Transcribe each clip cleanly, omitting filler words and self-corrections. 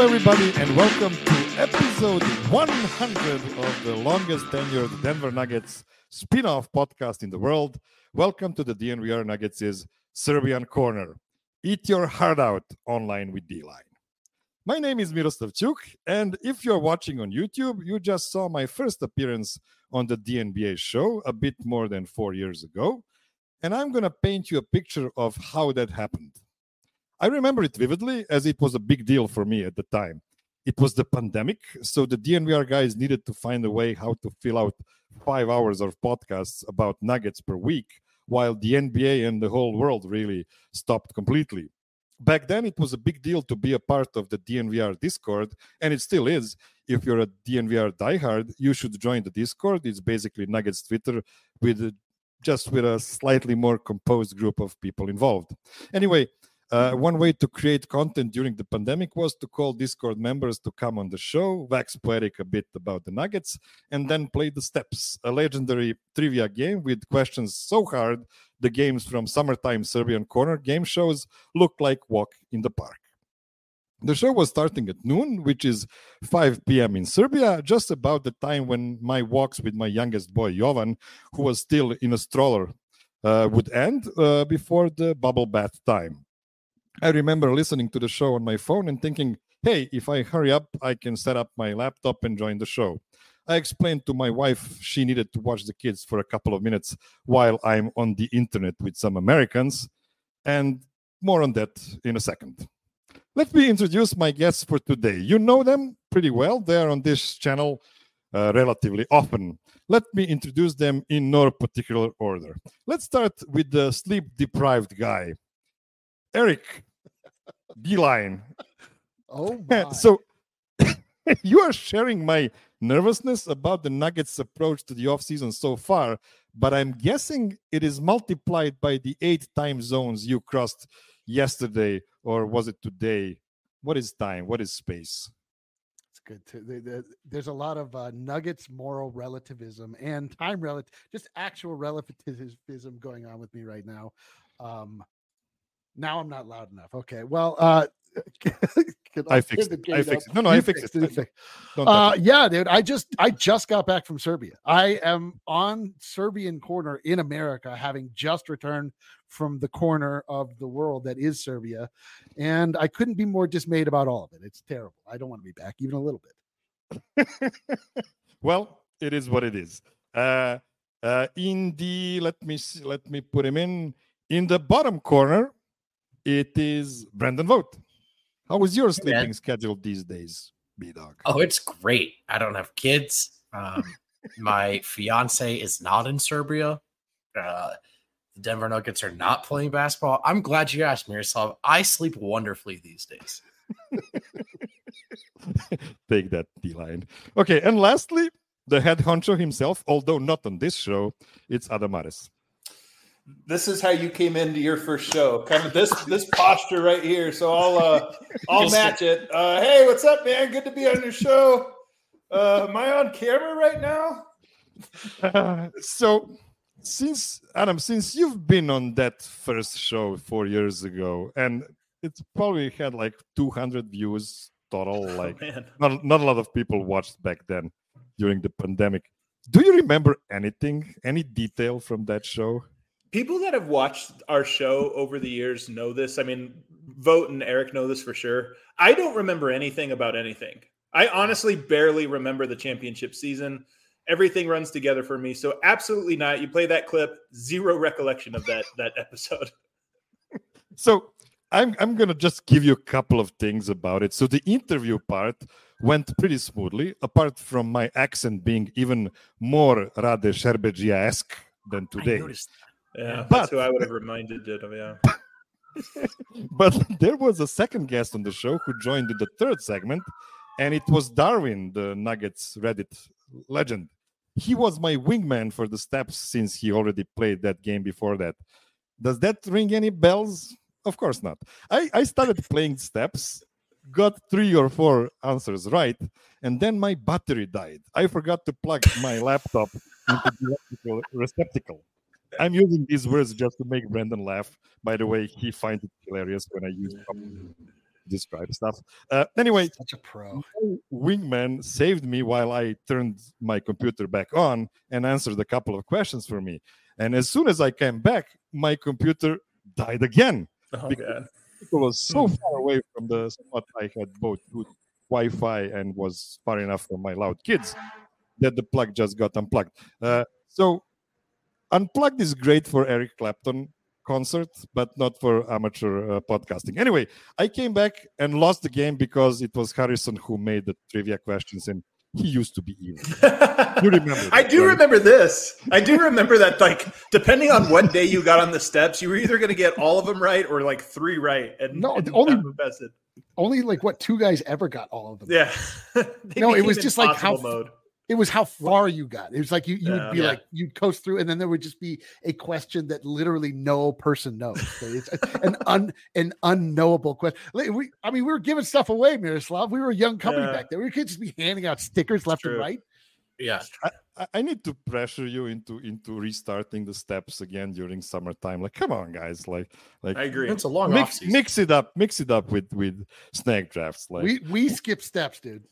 everybody, and welcome to episode 100 of the longest tenured Denver Nuggets spin-off podcast in the world. Welcome to the DNVR Nuggets' Serbian Corner. Eat your heart out online with D-Line. My name is Miroslav Chuk, and if you're watching on YouTube, you just saw my first appearance on the DNBA show a bit more than 4 years ago, and I'm going to paint you a picture of how that happened. I remember it vividly as it was a big deal for me at the time. It was the pandemic, so the DNVR guys needed to find a way how to fill out 5 hours of podcasts about Nuggets per week, while the NBA and the whole world really stopped completely. Back then, it was a big deal to be a part of the DNVR Discord, and it still is. If you're a DNVR diehard, you should join the Discord. It's basically Nuggets Twitter with a slightly more composed group of people involved. Anyway, one way to create content during the pandemic was to call Discord members to come on the show, wax poetic a bit about the Nuggets, and then play the Steps, a legendary trivia game with questions so hard the games from summertime Serbian Corner game shows looked like walk in the park. The show was starting at noon, which is 5 p.m. in Serbia, just about the time when my walks with my youngest boy, Jovan, who was still in a stroller, would end before the bubble bath time. I remember listening to the show on my phone and thinking, hey, if I hurry up, I can set up my laptop and join the show. I explained to my wife she needed to watch the kids for a couple of minutes while I'm on the internet with some Americans, and more on that in a second. Let me introduce my guests for today. You know them pretty well. They are on this channel relatively often. Let me introduce them in no particular order. Let's start with the sleep-deprived guy. Eric, D-Line. Oh, my. So you are sharing my nervousness about the Nuggets' approach to the offseason so far, but I'm guessing it is multiplied by the 8 time zones you crossed yesterday, or was it today? What is time? What is space? It's good too. There's a lot of Nuggets moral relativism and time just actual relativism going on with me right now. Now I'm not loud enough. Okay. Well, I fixed it. No, I fixed it. Yeah, dude. I just got back from Serbia. I am on Serbian Corner in America, having just returned from the corner of the world that is Serbia, and I couldn't be more dismayed about all of it. It's terrible. I don't want to be back even a little bit. Well, it is what it is. Let me put him in the bottom corner. It is Brandon Vogt. How is your sleeping schedule these days, B-Dog? Oh, it's great. I don't have kids. My fiance is not in Serbia. The Denver Nuggets are not playing basketball. I'm glad you asked, Miroslav. I sleep wonderfully these days. Take that, D-Line. Okay, and lastly, the head honcho himself, although not on this show, it's Adamares. This is how you came into your first show, kind of this posture right here. So I'll match it. Hey, what's up, man? Good to be on your show. Am I on camera right now? So, since you've been on that first show 4 years ago, and it's probably had like 200 views total, like not a lot of people watched back then during the pandemic. Do you remember anything, any detail from that show? People that have watched our show over the years know this. I mean, Vogt and Eric know this for sure. I don't remember anything about anything. I honestly barely remember the championship season. Everything runs together for me. So absolutely not. You play that clip, zero recollection of that episode. So I'm going to just give you a couple of things about it. So the interview part went pretty smoothly, apart from my accent being even more Rade Šerbedžija-esque than today. I noticed that. Yeah, that's who I would have reminded it of, yeah. But there was a second guest on the show who joined in the third segment, and it was Darwin, the Nuggets Reddit legend. He was my wingman for the Steps since he already played that game before that. Does that ring any bells? Of course not. I started playing Steps, got 3 or 4 answers right, and then my battery died. I forgot to plug my laptop into the electrical receptacle. I'm using these words just to make Brandon laugh. By the way, he finds it hilarious when I use them. describe stuff. Anyway, Such a pro. Wingman saved me while I turned my computer back on and answered a couple of questions for me. And as soon as I came back, my computer died again. Oh, because God. it was so far away from the spot I had both good Wi-Fi and was far enough from my loud kids that the plug just got unplugged. So Unplugged is great for Eric Clapton concert, but not for amateur podcasting. Anyway, I came back and lost the game because it was Harrison who made the trivia questions, and he used to be evil. You remember that, I do right? remember this. I do remember that, like, depending on what day you got on the steps, you were either going to get all of them right or like 3 right. And No, and only- not invested. Only like what 2 guys ever got all of them. Yeah. They No, it became was just like how impossible mode. It was how far you got. It was like you would be Yeah. like you'd coast through, and then there would just be a question that literally no person knows. So it's an unknowable question. Like, we were giving stuff away, Miroslav. We were a young company Yeah. back then. We could just be handing out stickers left and True. right. Yeah. I need to pressure you into restarting the steps again during summertime. Like, come on, guys! Like I agree. It's a long mix offseason. mix it up with snag drafts. Like, We skip steps, dude.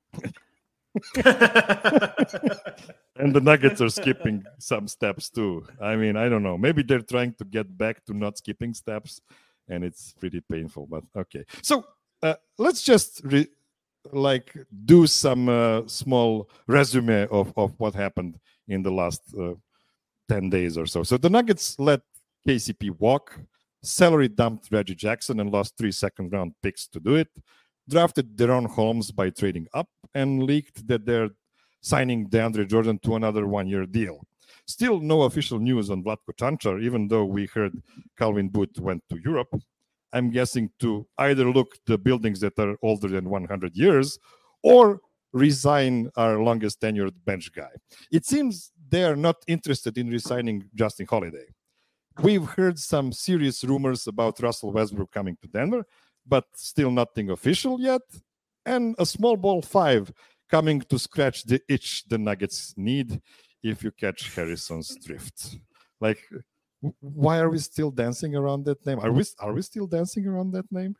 and the Nuggets are skipping some steps too. I mean, I don't know. Maybe they're trying to get back to not skipping steps, and it's pretty painful. But okay, so let's just do some small resume of what happened in the last 10 days or so. So the Nuggets let KCP walk, salary dumped Reggie Jackson and lost 3 second-round picks to do it, drafted Deron Holmes by trading up, and leaked that they're signing DeAndre Jordan to another 1-year deal. Still no official news on Vlatko Čančar, even though we heard Calvin Booth went to Europe. I'm guessing to either look the buildings that are older than 100 years or resign our longest tenured bench guy. It seems they are not interested in resigning Justin Holiday. We've heard some serious rumors about Russell Westbrook coming to Denver, but still nothing official yet. And a small ball 5 coming to scratch the itch the Nuggets need, if you catch Harrison's drift. Like, why are we still dancing around that name? Are we still dancing around that name?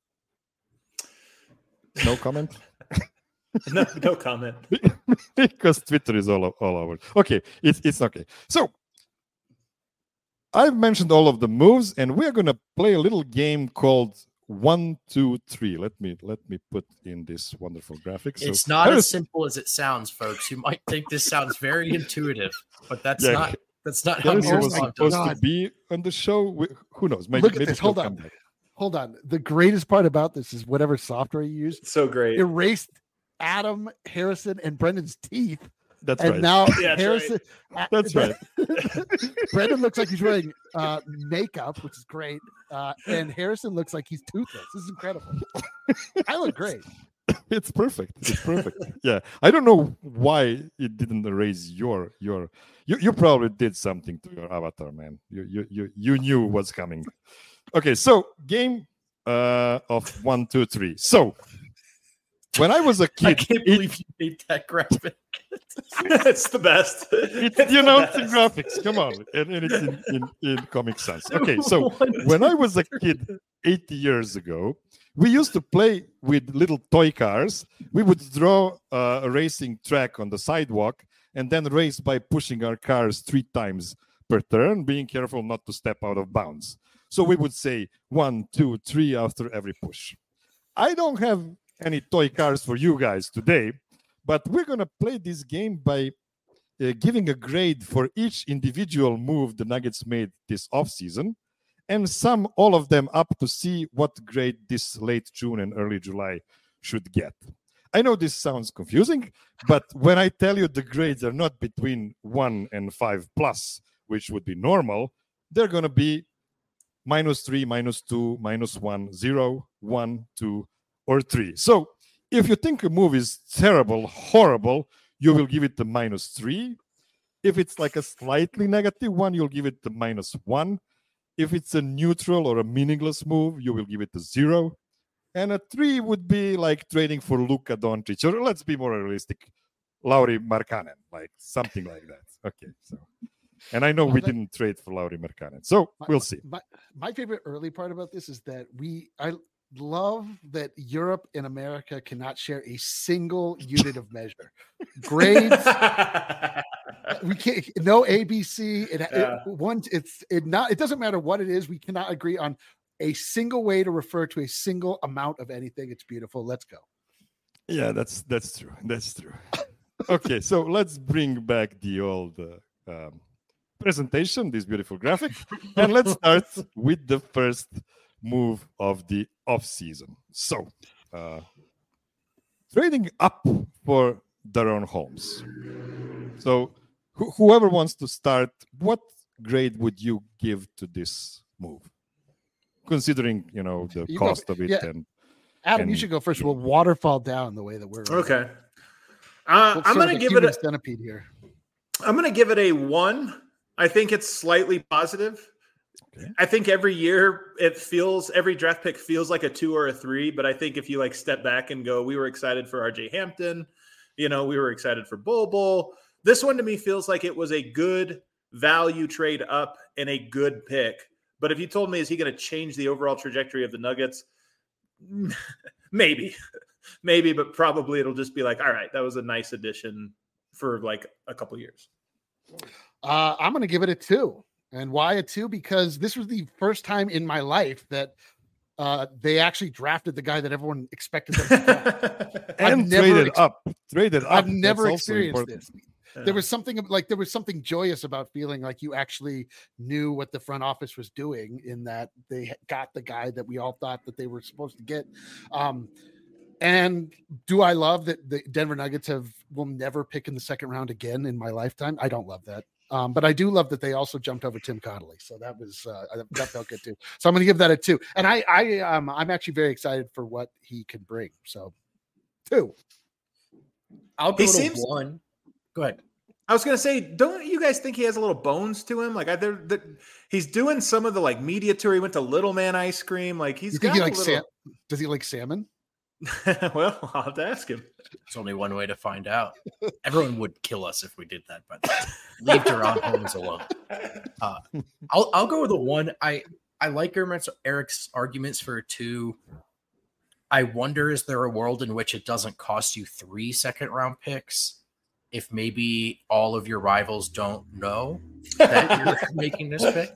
No comment. No comment. Because Twitter is all over. Okay, it's okay. So I've mentioned all of the moves, and we're gonna play a little game called 1, 2, 3. Let me put in this wonderful graphic. So It's not as simple as it sounds, folks. You might think this sounds very intuitive, but that's Yeah. not. That's not how Harrison was Miroslav supposed does it. to God. be on the show. Who knows? Look at maybe this. he'll Hold come on. back. Hold on. The greatest part about this is whatever software you used So great. erased Adam, Harrison, and Brendan's teeth. That's And right. now Yeah, that's Harrison. That's right. Brendan looks like he's wearing makeup, which is great. And Harrison looks like he's toothless. This is incredible. I look great. It's perfect. It's perfect. Yeah. I don't know why it didn't erase your you probably did something to your avatar, man. You knew what's coming. Okay, so game of 1, 2, 3. So when I was a I kid, can't believe you made that graphic. It's the best. it's It's you the know it's in best. graphics. Come on, and it's in Comic Sans. Okay, so when I was a kid 80 years ago, we used to play with little toy cars. We would draw a racing track on the sidewalk and then race by pushing our cars 3 times per turn, being careful not to step out of bounds. So we would say 1, 2, 3 after every push. I don't have any toy cars for you guys today, but we're going to play this game by giving a grade for each individual move the Nuggets made this offseason and sum all of them up to see what grade this late June and early July should get. I know this sounds confusing, but when I tell you the grades are not between 1 and 5 plus, which would be normal, they're going to be -3, -2, -1, 0, 1, 2, or 3. So if you think a move is terrible, horrible, you will give it the -3. If it's like a slightly negative one, you'll give it the -1. If it's a neutral or a meaningless move, you will give it a 0. And a 3 would be like trading for Luka Doncic, or let's be more realistic, Lauri Markkanen, like something like that. Okay, so, and I know we didn't trade for Lauri Markkanen, so we'll see. My favorite early part about this is that love that Europe and America cannot share a single unit of measure. Grades, we can't. No ABC. It doesn't matter what it is. We cannot agree on a single way to refer to a single amount of anything. It's beautiful. Let's go. Yeah, that's true. That's true. Okay, so let's bring back the old presentation, this beautiful graphic, and let's start with the first move of the off season. So, trading up for Daron Holmes. So, whoever wants to start, what grade would you give to this move, considering the cost of it? Yeah. And Adam, you should go first. We'll waterfall down the way that we're okay. I'm going to give it a centipede here. I'm going to give it a 1. I think it's slightly positive. Okay. I think every year every draft pick feels like a 2 or a 3, but I think if you step back and go, we were excited for RJ Hampton, we were excited for Bol. This one to me feels like it was a good value trade up and a good pick. But if you told me, is he going to change the overall trajectory of the Nuggets? Maybe, but probably it'll just be all right, that was a nice addition for a couple years. I'm going to give it a 2. And why a 2? Because this was the first time in my life that they actually drafted the guy that everyone expected them to draft. And traded up. I've never experienced this. There was something joyous about feeling like you actually knew what the front office was doing, in that they got the guy that we all thought that they were supposed to get. And do I love that the Denver Nuggets will never pick in the second round again in my lifetime? I don't love that. But I do love that they also jumped over Tim Connolly. So that felt good too. So I'm going to give that a 2. And I'm actually very excited for what he can bring. So 2. I'll go to 1. Go ahead. I was going to say, don't you guys think he has a little bones to him? He's doing some of the media tour. He went to Little Man Ice Cream. Does he like salmon? Well, I'll have to ask him. There's only one way to find out. Everyone would kill us if we did that, but leave Daron Holmes alone. I'll go with a 1. I like Eric's arguments for a 2. I wonder, is there a world in which it doesn't cost you 3 second-round picks if maybe all of your rivals don't know that you're making this pick?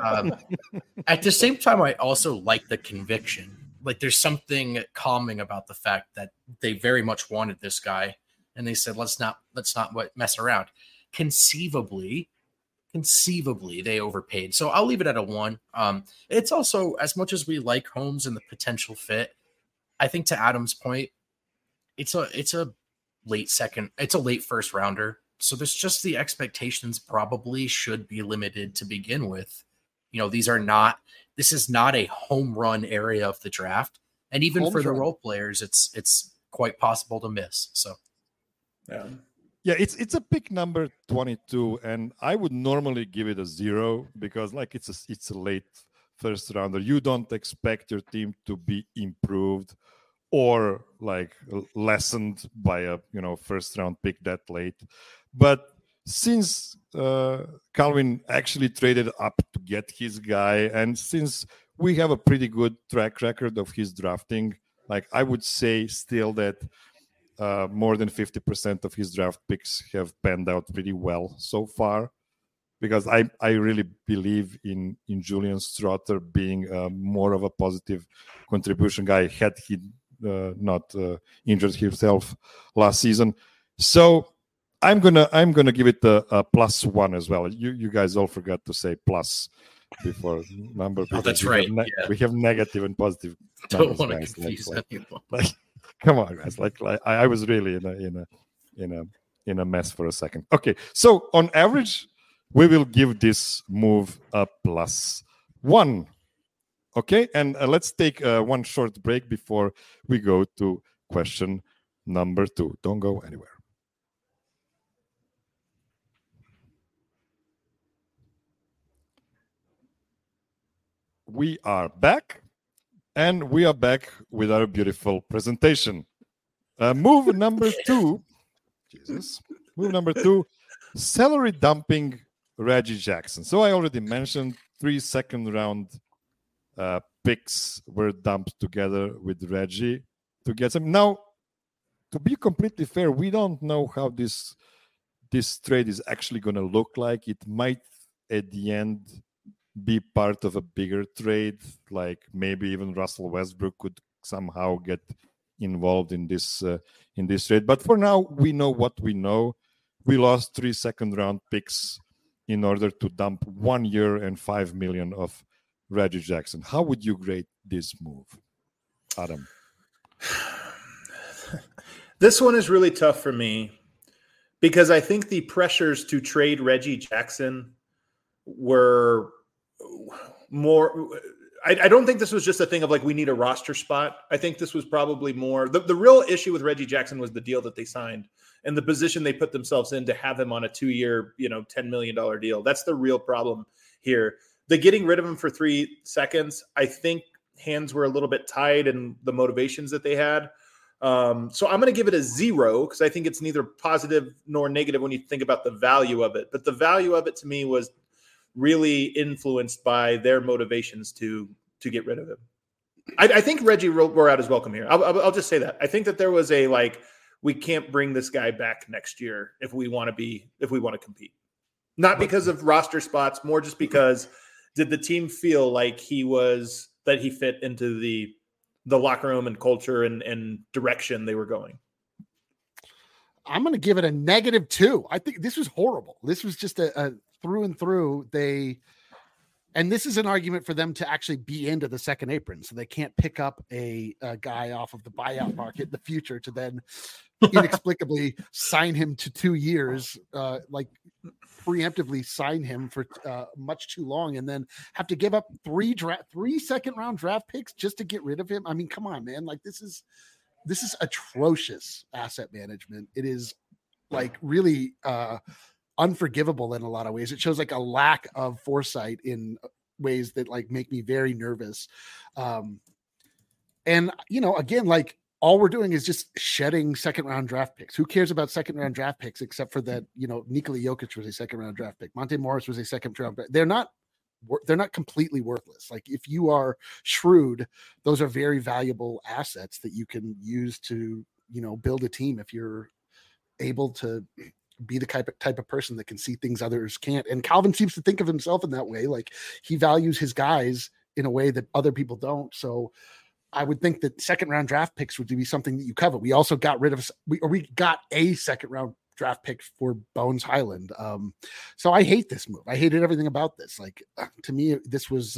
At the same time, I also like the conviction. There's something calming about the fact that they very much wanted this guy, and they said, let's not mess around. Conceivably, they overpaid. So I'll leave it at a 1. It's also, as much as we like Holmes and the potential fit, I think to Adam's point, it's a late first rounder. So there's just the expectations probably should be limited to begin with. This is not a home run area of the draft. And even for the role players, it's quite possible to miss. So yeah, it's a pick number 22, and I would normally give it a 0 because it's a late first rounder. You don't expect your team to be improved or lessened by a first round pick that late. But since Calvin actually traded up to get his guy, and since we have a pretty good track record of his drafting, I would say still that more than 50% of his draft picks have panned out pretty well so far, because I really believe in Julian Strother being more of a positive contribution guy had he not injured himself last season. So I'm gonna give it a +1 as well. You guys all forgot to say plus before number. Oh, that's right. We have negative and positive. Don't want to confuse anyone. Come on, guys! I was really in a mess for a second. Okay, so on average, we will give this move a +1. Okay, and let's take one short break before we go to question number 2. Don't go anywhere. We are back, and we are back with our beautiful presentation. Move number 2. Move number 2, salary dumping Reggie Jackson. So I already mentioned 3 second-round picks were dumped together with Reggie to get some. Now, to be completely fair, we don't know how this trade is actually going to look like. It might at the end be part of a bigger trade, like maybe even Russell Westbrook could somehow get involved in this trade. But for now, we know what we know. We lost 3 second-round picks in order to dump 1 year and $5 million of Reggie Jackson. How would you grade this move, Adam? This one is really tough for me because I think the pressures to trade Reggie Jackson were more. I don't think this was just a thing of like, we need a roster spot. I think this was probably more. The real issue with Reggie Jackson was the deal that they signed and the position they put themselves in to have him on a 2-year, $10 million deal. That's the real problem here. The getting rid of him for 3 seconds, I think hands were a little bit tied in the motivations that they had. So I'm going to give it a 0 because I think it's neither positive nor negative when you think about the value of it. But the value of it to me was really influenced by their motivations to get rid of him. I think Reggie wore out his welcome here. I'll just say that. I think that there was a we can't bring this guy back next year if we want to compete. Not because of roster spots, more just because did the team feel like that he fit into the locker room and culture and direction they were going? I'm going to give it a -2. I think this was horrible. This was just a through and through. And this is an argument for them to actually be into the second apron. So they can't pick up a guy off of the buyout market in the future to then inexplicably sign him to 2 years, preemptively sign him for much too long and then have to give up 3 second-round draft picks just to get rid of him. I mean, come on, man. This is atrocious asset management. It is really unforgivable in a lot of ways. It shows a lack of foresight in ways that make me very nervous. And again, all we're doing is just shedding second-round draft picks. Who cares about second-round draft picks except for that? Nikola Jokic was a second-round draft pick. Monte Morris was a second-round pick. They're not completely worthless. If you are shrewd, those are very valuable assets that you can use to build a team if you're able to be the type of person that can see things others can't. And Calvin seems to think of himself in that way. He values his guys in a way that other people don't. So I would think that second-round draft picks would be something that you cover. We also got rid of we got a second-round draft pick for Bones Highland. So I hate this move. I hated everything about this. To me, this was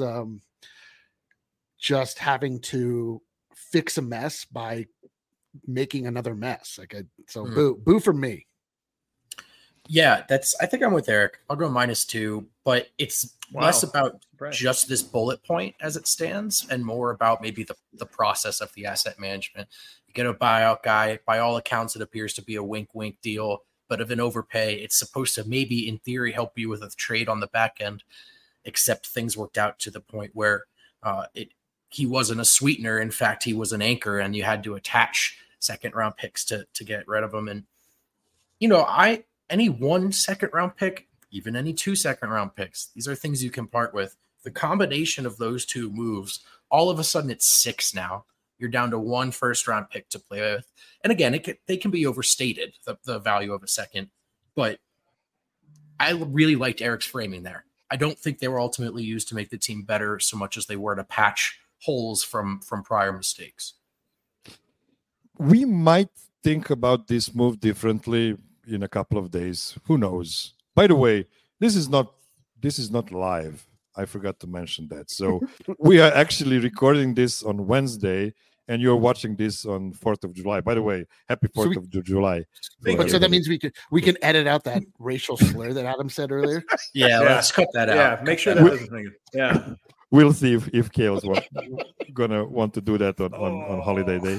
just having to fix a mess by making another mess. Boo for me. Yeah, I think I'm with Eric. I'll go -2, but it's less about just this bullet point as it stands and more about maybe the process of the asset management. You get a buyout guy, by all accounts, it appears to be a wink deal, but of an overpay. It's supposed to maybe in theory help you with a trade on the back end, except things worked out to the point where he wasn't a sweetener. In fact, he was an anchor and you had to attach second-round picks to get rid of him. And, any 1 second-round pick, even any 2 second-round picks, these are things you can part with. The combination of those 2 moves, all of a sudden it's 6 now. You're down to 1 first-round pick to play with. And again, they can be overstated, the value of a second. But I really liked Eric's framing there. I don't think they were ultimately used to make the team better so much as they were to patch holes from prior mistakes. We might think about this move differently in a couple of days. Who knows? By the way, this is not live. I forgot to mention that. So we are actually recording this on Wednesday, and you're watching this on 4th of July. By the way, happy 4th of July. So that means we can edit out that racial slur that Adam said earlier. Yeah, let's cut that out. Yeah, make sure that doesn't make it. Yeah. We'll see if Kale's gonna want to do that on holiday day.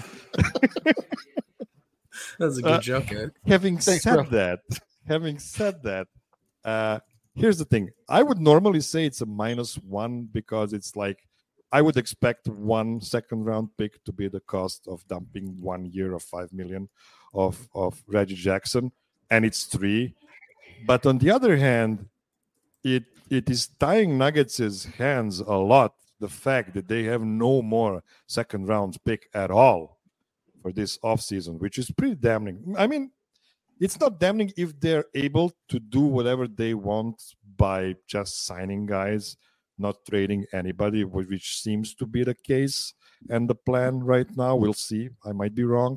That's a good joke, Eric. Having said that, here's the thing. I would normally say it's a -1 because it's I would expect 1 second-round pick to be the cost of dumping 1 year of $5 million of Reggie Jackson, and it's 3. But on the other hand, it is tying Nuggets' hands a lot the fact that they have no more second round pick at all for this offseason, which is pretty damning. I mean, it's not damning if they're able to do whatever they want by just signing guys, not trading anybody, which seems to be the case and the plan right now. We'll see. I might be wrong.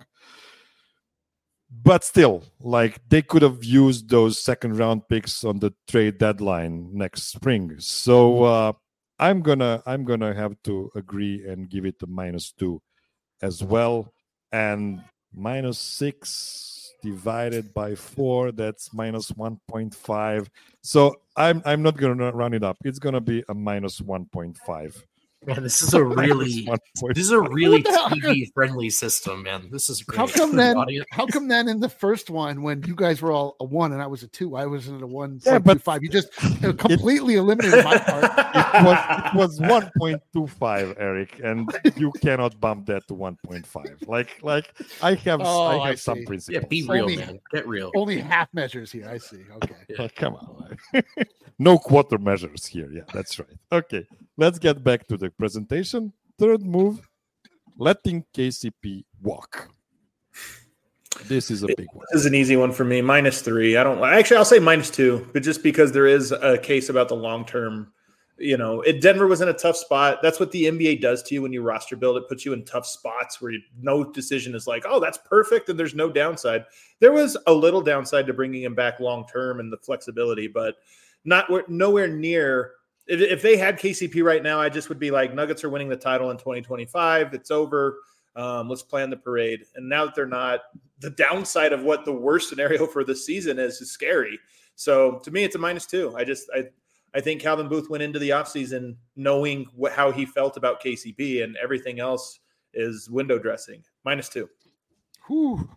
But still, like, they could have used those second round picks on the trade deadline next spring. So I'm gonna have to agree and give it a -2 as well. And -6 divided by 4, that's -1.5. So I'm not gonna run it up. It's gonna be a -1.5. Man, this is a really TV friendly system, man. This is great. How come then in the first one, when you guys were all a 1 and I was a 2, I was in a 1.25. You just completely eliminated my part. It was 1.25, Eric, and you cannot bump that to 1.5. Like I have some principles. Yeah, be real, man. Get real. Only half measures here. I see. Okay. Yeah. Come on. No quarter measures here. Yeah, that's right. Okay, let's get back to the presentation. Third move, letting KCP walk. This is a big one. This is an easy one for me. -3. I'll say -2, but just because there is a case about the long term. Denver was in a tough spot. That's what the NBA does to you when you roster build. It puts you in tough spots where no decision is like, oh, that's perfect, and there's no downside. There was a little downside to bringing him back long term and the flexibility, but nowhere near. If they had KCP right now, I just would be like, Nuggets are winning the title in 2025. It's over. Let's plan the parade. And now that they're not, the downside of what the worst scenario for this season is scary. So to me, it's a -2. I think Calvin Booth went into the offseason knowing how he felt about KCP, and everything else is window dressing. -2. Whew.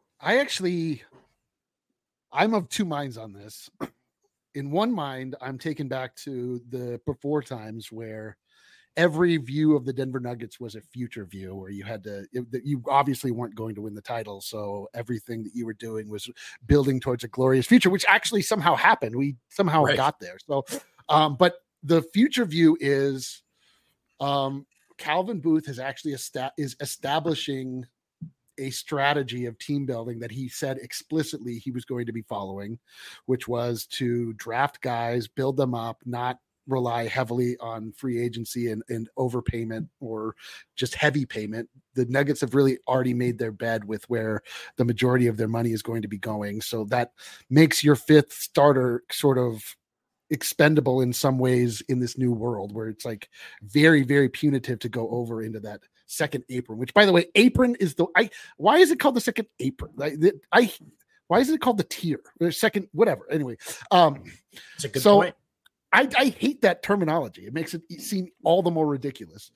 I'm of two minds on this. In one mind, I'm taken back to the before times where every view of the Denver Nuggets was a future view, where you obviously weren't going to win the title. So everything that you were doing was building towards a glorious future, which actually somehow happened. We somehow got there. So, but the future view is Calvin Booth is actually establishing a strategy of team building that he said explicitly he was going to be following, which was to draft guys, build them up, not rely heavily on free agency and overpayment or just heavy payment. The Nuggets have really already made their bed with where the majority of their money is going to be going. So that makes your fifth starter sort of expendable in some ways in this new world where it's like very, very punitive to go over into that second apron, which by the way, apron is why is it called the second apron? Why is it called the tier or second, whatever. Anyway. It's a good point. I hate that terminology. It makes it seem all the more ridiculous.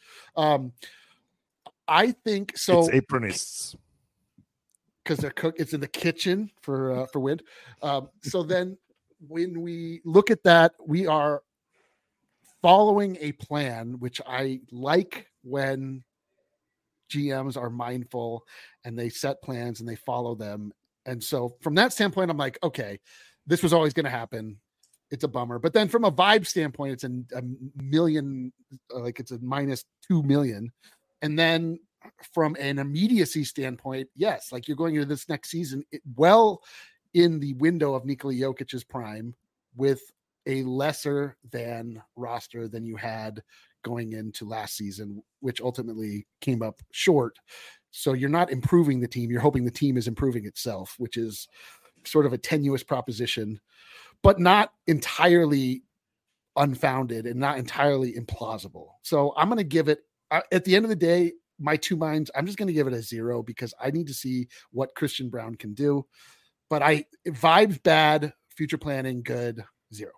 I think so. It's apronists because they're it's in the kitchen for wind. So then when we look at that, we are following a plan, which I like when GMs are mindful and they set plans and they follow them. And so from that standpoint, I'm like, okay, this was always going to happen. It's a bummer. But then from a vibe standpoint, it's a million, like it's a -2 million. And then from an immediacy standpoint, yes, like you're going into this next season well in the window of Nikola Jokic's prime with a lesser than roster than you had going into last season, which ultimately came up short. So you're not improving the team. You're hoping the team is improving itself, which is sort of a tenuous proposition, but not entirely unfounded and not entirely implausible. So I'm going to give it, at the end of the day, my two minds, I'm just going to give it a 0 because I need to see what Christian Braun can do. But vibes bad, future planning good, 0.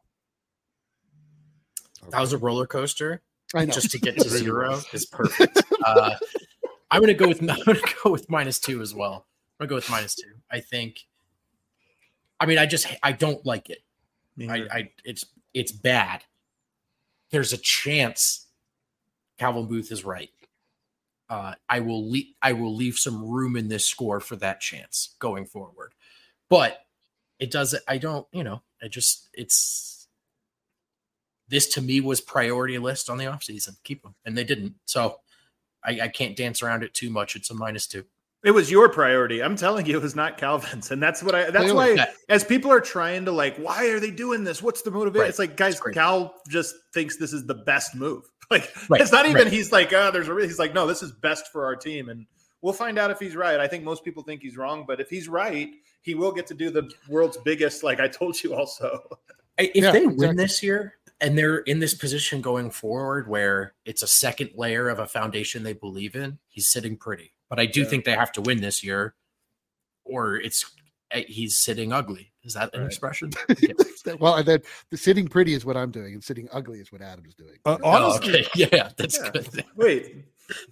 That was a roller coaster. I know. Just to get to 0 is perfect. I'm going to go with -2 as well. I'm going to go with -2. I think. I mean, I don't like it. It's bad. There's a chance Calvin Booth is right. I will leave some room in this score for that chance going forward. But it doesn't. I don't. this to me was priority list on the offseason. Keep him. And they didn't. So I can't dance around it too much. It's a -2. It was your priority. I'm telling you, it was not Calvin's. And that's why as people are trying to like, why are they doing this? What's the motivation? Right. It's like, guys, Cal just thinks this is the best move. Like, it's not even, he's like, he's like, no, this is best for our team. And we'll find out if he's right. I think most people think he's wrong, but if he's right, he will get to do the world's biggest, like I told you also. If they win this year and they're in this position going forward where it's a second layer of a foundation they believe in, he's sitting pretty. But I do think they have to win this year, or he's sitting ugly. Is that an expression? Well, the sitting pretty is what I'm doing, and sitting ugly is what Adam's doing. Honestly, that's good. Wait,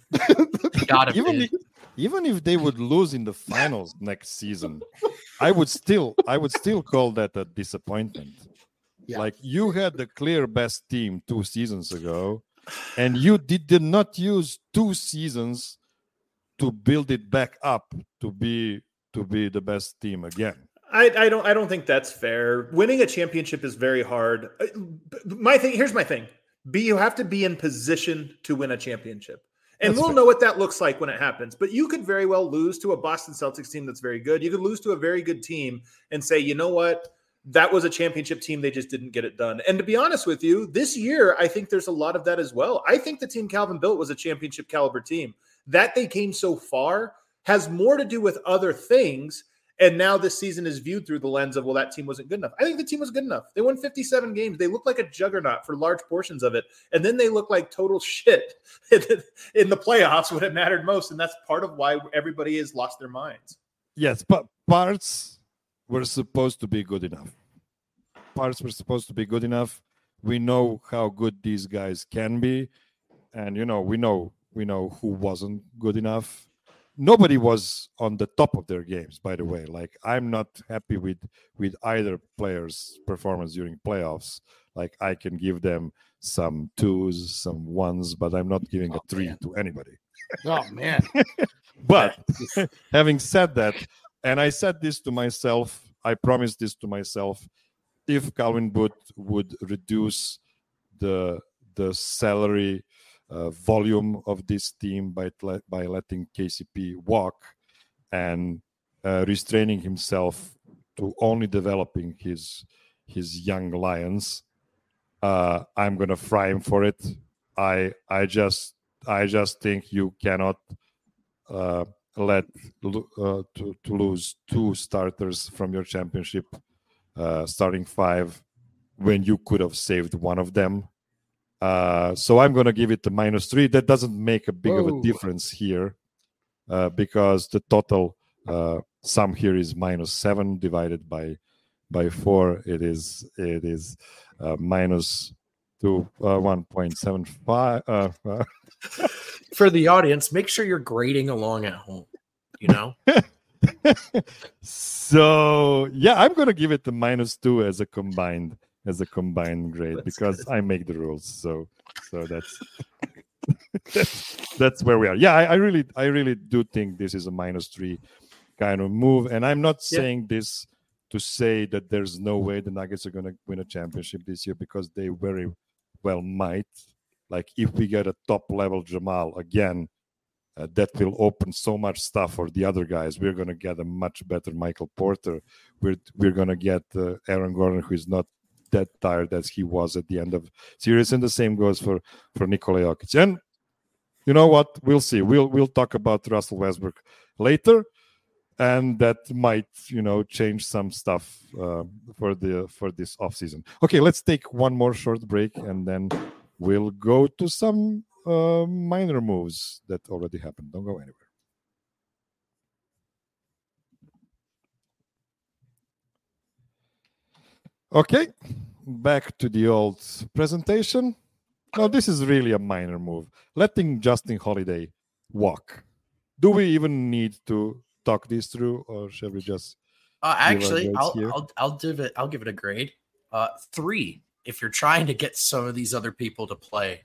even if they would lose in the finals next season, I would still call that a disappointment. Yeah. Like, you had the clear best team 2 seasons ago, and you did not use 2 seasons to build it back up to be the best team again. I don't think that's fair. Winning a championship is very hard. Here's my thing. You have to be in position to win a championship. And we'll know what that looks like when it happens. But you could very well lose to a Boston Celtics team that's very good. You could lose to a very good team and say, you know what? That was a championship team. They just didn't get it done. And to be honest with you, this year, I think there's a lot of that as well. I think the team Calvin built was a championship caliber team. That they came so far has more to do with other things. And now this season is viewed through the lens of, well, that team wasn't good enough. I think the team was good enough. They won 57 games. They looked like a juggernaut for large portions of it. And then they looked like total shit in the playoffs when it mattered most. And that's part of why everybody has lost their minds. Yes, but parts were supposed to be good enough. Parts were supposed to be good enough. We know how good these guys can be. And, we know who wasn't good enough. Nobody was on the top of their games, by the way. Like, I'm not happy with either player's performance during playoffs. Like, I can give them some 2s, some 1s, but I'm not giving a 3 to anybody. Oh, man. But having said that, and I said this to myself, I promised this to myself, if Calvin Booth would reduce the salary volume of this team by letting KCP walk and restraining himself to only developing his young lions, I'm gonna fry him for it. I just think you cannot let to lose 2 starters from your championship starting 5 when you could have saved one of them. So I'm going to give it a -3. That doesn't make a big of a difference here because the total sum here is -7 divided by 4. It is minus to 1.75. For the audience, make sure you're grading along at home. So yeah, I'm going to give it a -2 as a combined grade because I make the rules. So that's where we are. Yeah, I really do think this is a -3 kind of move, and I'm not saying this to say that there's no way the Nuggets are going to win a championship this year, because they very well might. Like, if we get a top level Jamal again, that will open so much stuff for the other guys. We're going to get a much better Michael Porter. We're going to get Aaron Gordon, who is not that tired as he was at the end of series, and the same goes for Nikola Jokic. And you know what? We'll see. We'll talk about Russell Westbrook later, and that might change some stuff for this offseason. Okay, let's take one more short break, and then we'll go to some minor moves that already happened. Don't go anywhere. Okay, back to the old presentation. Now, this is really a minor move. Letting Justin Holiday walk. Do we even need to talk this through, or shall we just? Actually, I'll give it a grade. 3. If you're trying to get some of these other people to play,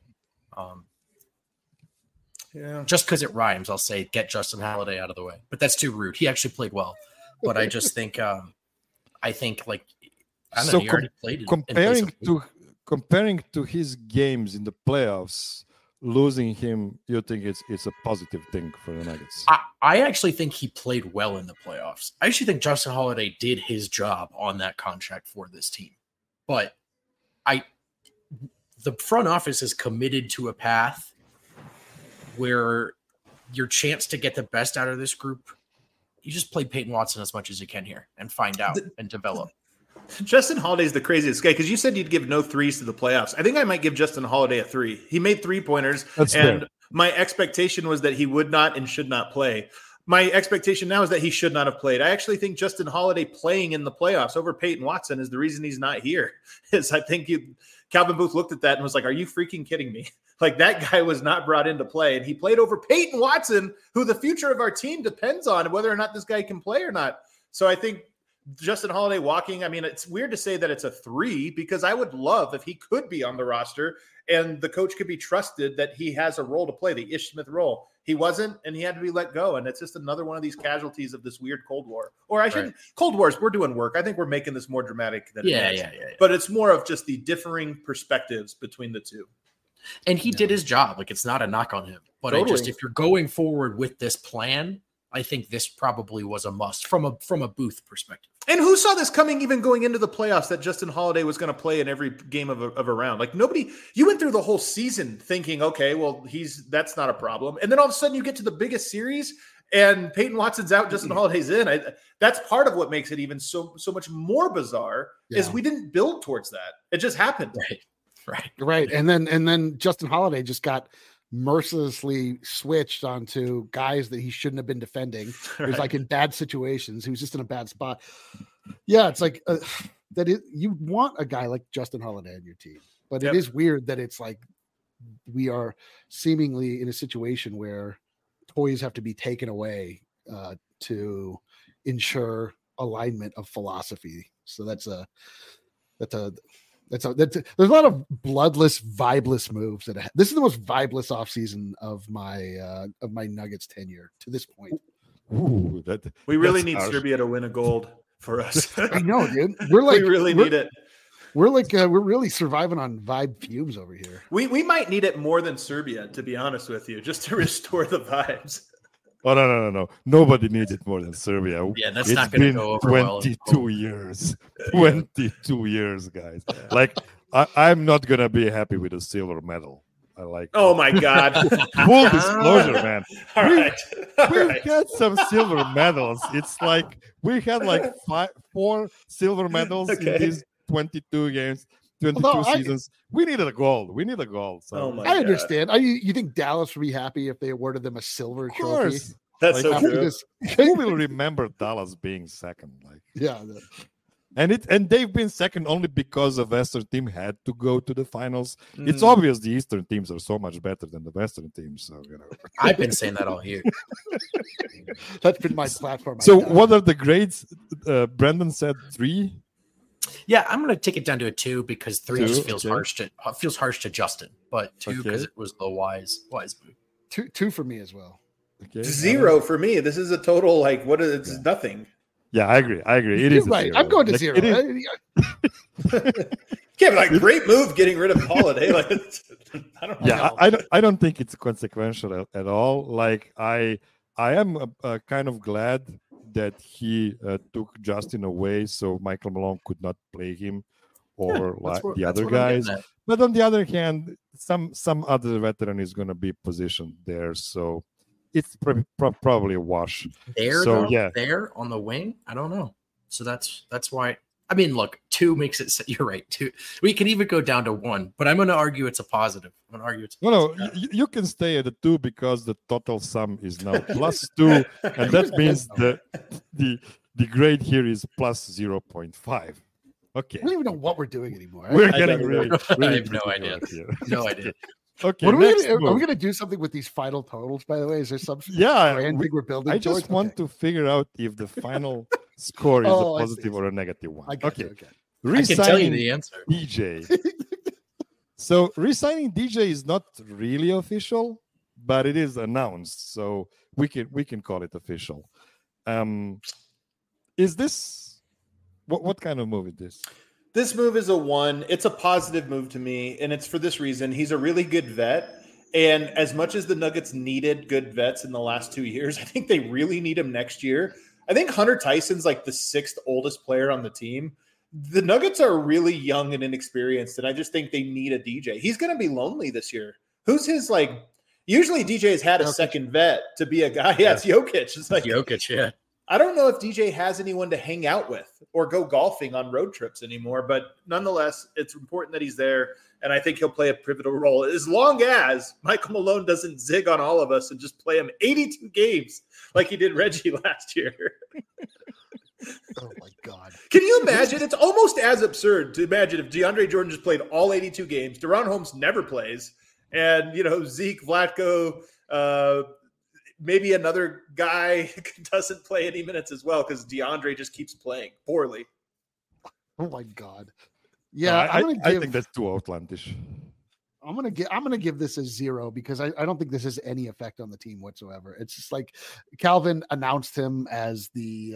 just because it rhymes, I'll say get Justin Holiday out of the way. But that's too rude. He actually played well, but I just think, he already played. comparing to his games in the playoffs, losing him, you think it's a positive thing for the Nuggets? I actually think he played well in the playoffs. I actually think Justin Holiday did his job on that contract for this team. But the front office is committed to a path where your chance to get the best out of this group, you just play Peyton Watson as much as you can here and find out and develop. Justin Holiday's the craziest guy because you said you'd give no threes to the playoffs. I think I might give Justin Holiday a 3. He made 3-pointers, and fair. My expectation was that he would not and should not play. My expectation now is that he should not have played. I actually think Justin Holiday playing in the playoffs over Peyton Watson is the reason he's not here. Is I think Calvin Booth looked at that and was like, "Are you freaking kidding me?" Like, that guy was not brought into play, and he played over Peyton Watson, who the future of our team depends on whether or not this guy can play or not. So I think Justin Holiday walking, I mean, it's weird to say that it's a 3 because I would love if he could be on the roster and the coach could be trusted that he has a role to play, the Ish Smith role. He wasn't, and he had to be let go. And it's just another one of these casualties of this weird Cold War. Or I shouldn't, Cold Wars, we're doing work. I think we're making this more dramatic than it is. Yeah. But it's more of just the differing perspectives between the two. And he did his job. Like, it's not a knock on him. But Totally. if you're going forward with this plan, I think this probably was a must from a Booth perspective. And who saw this coming even going into the playoffs that Justin Holiday was going to play in every game of a round? Like, nobody, you went through the whole season thinking, okay, well, that's not a problem. And then all of a sudden you get to the biggest series and Peyton Watson's out, Justin Holiday's in. That's part of what makes it even so much more bizarre is we didn't build towards that. It just happened. Right. And then Justin Holiday just got mercilessly switched onto guys that he shouldn't have been defending. It was like in bad situations. He was just in a bad spot. Yeah, it's like you want a guy like Justin Holiday on your team, but it is weird that it's like we are seemingly in a situation where toys have to be taken away to ensure alignment of philosophy. So there's a lot of bloodless, vibeless moves this is the most vibeless offseason of my Nuggets tenure to this point. Ooh, we really need Serbia to win a gold for us. I know, dude. We're like, we really need it. We're like, we're really surviving on vibe fumes over here. We might need it more than Serbia, to be honest with you, just to restore the vibes. Oh, no. Nobody needs it more than Serbia. Yeah, that's not going to go over 22 years. 22 years, guys. Like, I'm not going to be happy with a silver medal. I like Oh, my God. Full disclosure, man. We had some silver medals. It's like we had like 4 silver medals in these 22 games. 22 seasons. We needed a gold. We need a gold. So. I understand. You think Dallas would be happy if they awarded them a silver trophy? That's like, so true. Who will remember Dallas being second? Like, yeah. And they've been second only because the Western team had to go to the finals. It's obvious the Eastern teams are so much better than the Western teams. So I've been saying that all year. That's been my platform. So what are the grades? Brendan said 3. Yeah, I'm going to take it down to a 2 because 3 just feels harsh to Justin, but 2 because it was the wise move. 2 for me as well. Okay. 0 for me. This is a total it's nothing. Yeah, I agree. It is right. 0. I'm going to 0. Yeah, but like great move getting rid of Holiday. Like, I don't know. Yeah, I don't think it's consequential at all. Like I am kind of glad that he took Justin away so Michael Malone could not play him or the other guys. But on the other hand, some other veteran is going to be positioned there. So it's probably a wash. There on the wing? I don't know. So that's why. I mean, look, 2 makes it. You're right. 2. We can even go down to 1, but I'm going to argue it's a positive. No, you can stay at a 2 because the total sum is now +2, and that means the grade here is +0.5. Okay. I don't even know what we're doing anymore. We're getting really I have no idea. No idea. Okay. What are we going to do something with these final totals? By the way, is there some thing we're building? I just want to figure out if the final score is a positive or a negative one. Okay. I can tell you the answer. DJ. So re-signing DJ is not really official, but it is announced, so we can call it official. Is this what kind of move is this? This move is a 1. It's a positive move to me, and it's for this reason. He's a really good vet. And as much as the Nuggets needed good vets in the last 2 years, I think they really need him next year. I think Hunter Tyson's like the 6th oldest player on the team. The Nuggets are really young and inexperienced, and I just think they need a DJ. He's going to be lonely this year. Who's his, like, usually DJ has had a second vet to be a guy. Yeah, it's Jokic. It's like Jokic, yeah. I don't know if DJ has anyone to hang out with or go golfing on road trips anymore, but nonetheless, it's important that he's there, and I think he'll play a pivotal role as long as Michael Malone doesn't zig on all of us and just play him 82 games like he did Reggie last year. Oh, my God. Can you imagine? It's almost as absurd to imagine if DeAndre Jordan just played all 82 games, De'Ron Holmes never plays, and, Zeke, Vlatko, maybe another guy doesn't play any minutes as well because DeAndre just keeps playing poorly. Oh my God! Yeah, I think that's too outlandish. I'm gonna give this a 0 because I don't think this has any effect on the team whatsoever. It's just like Calvin announced him as the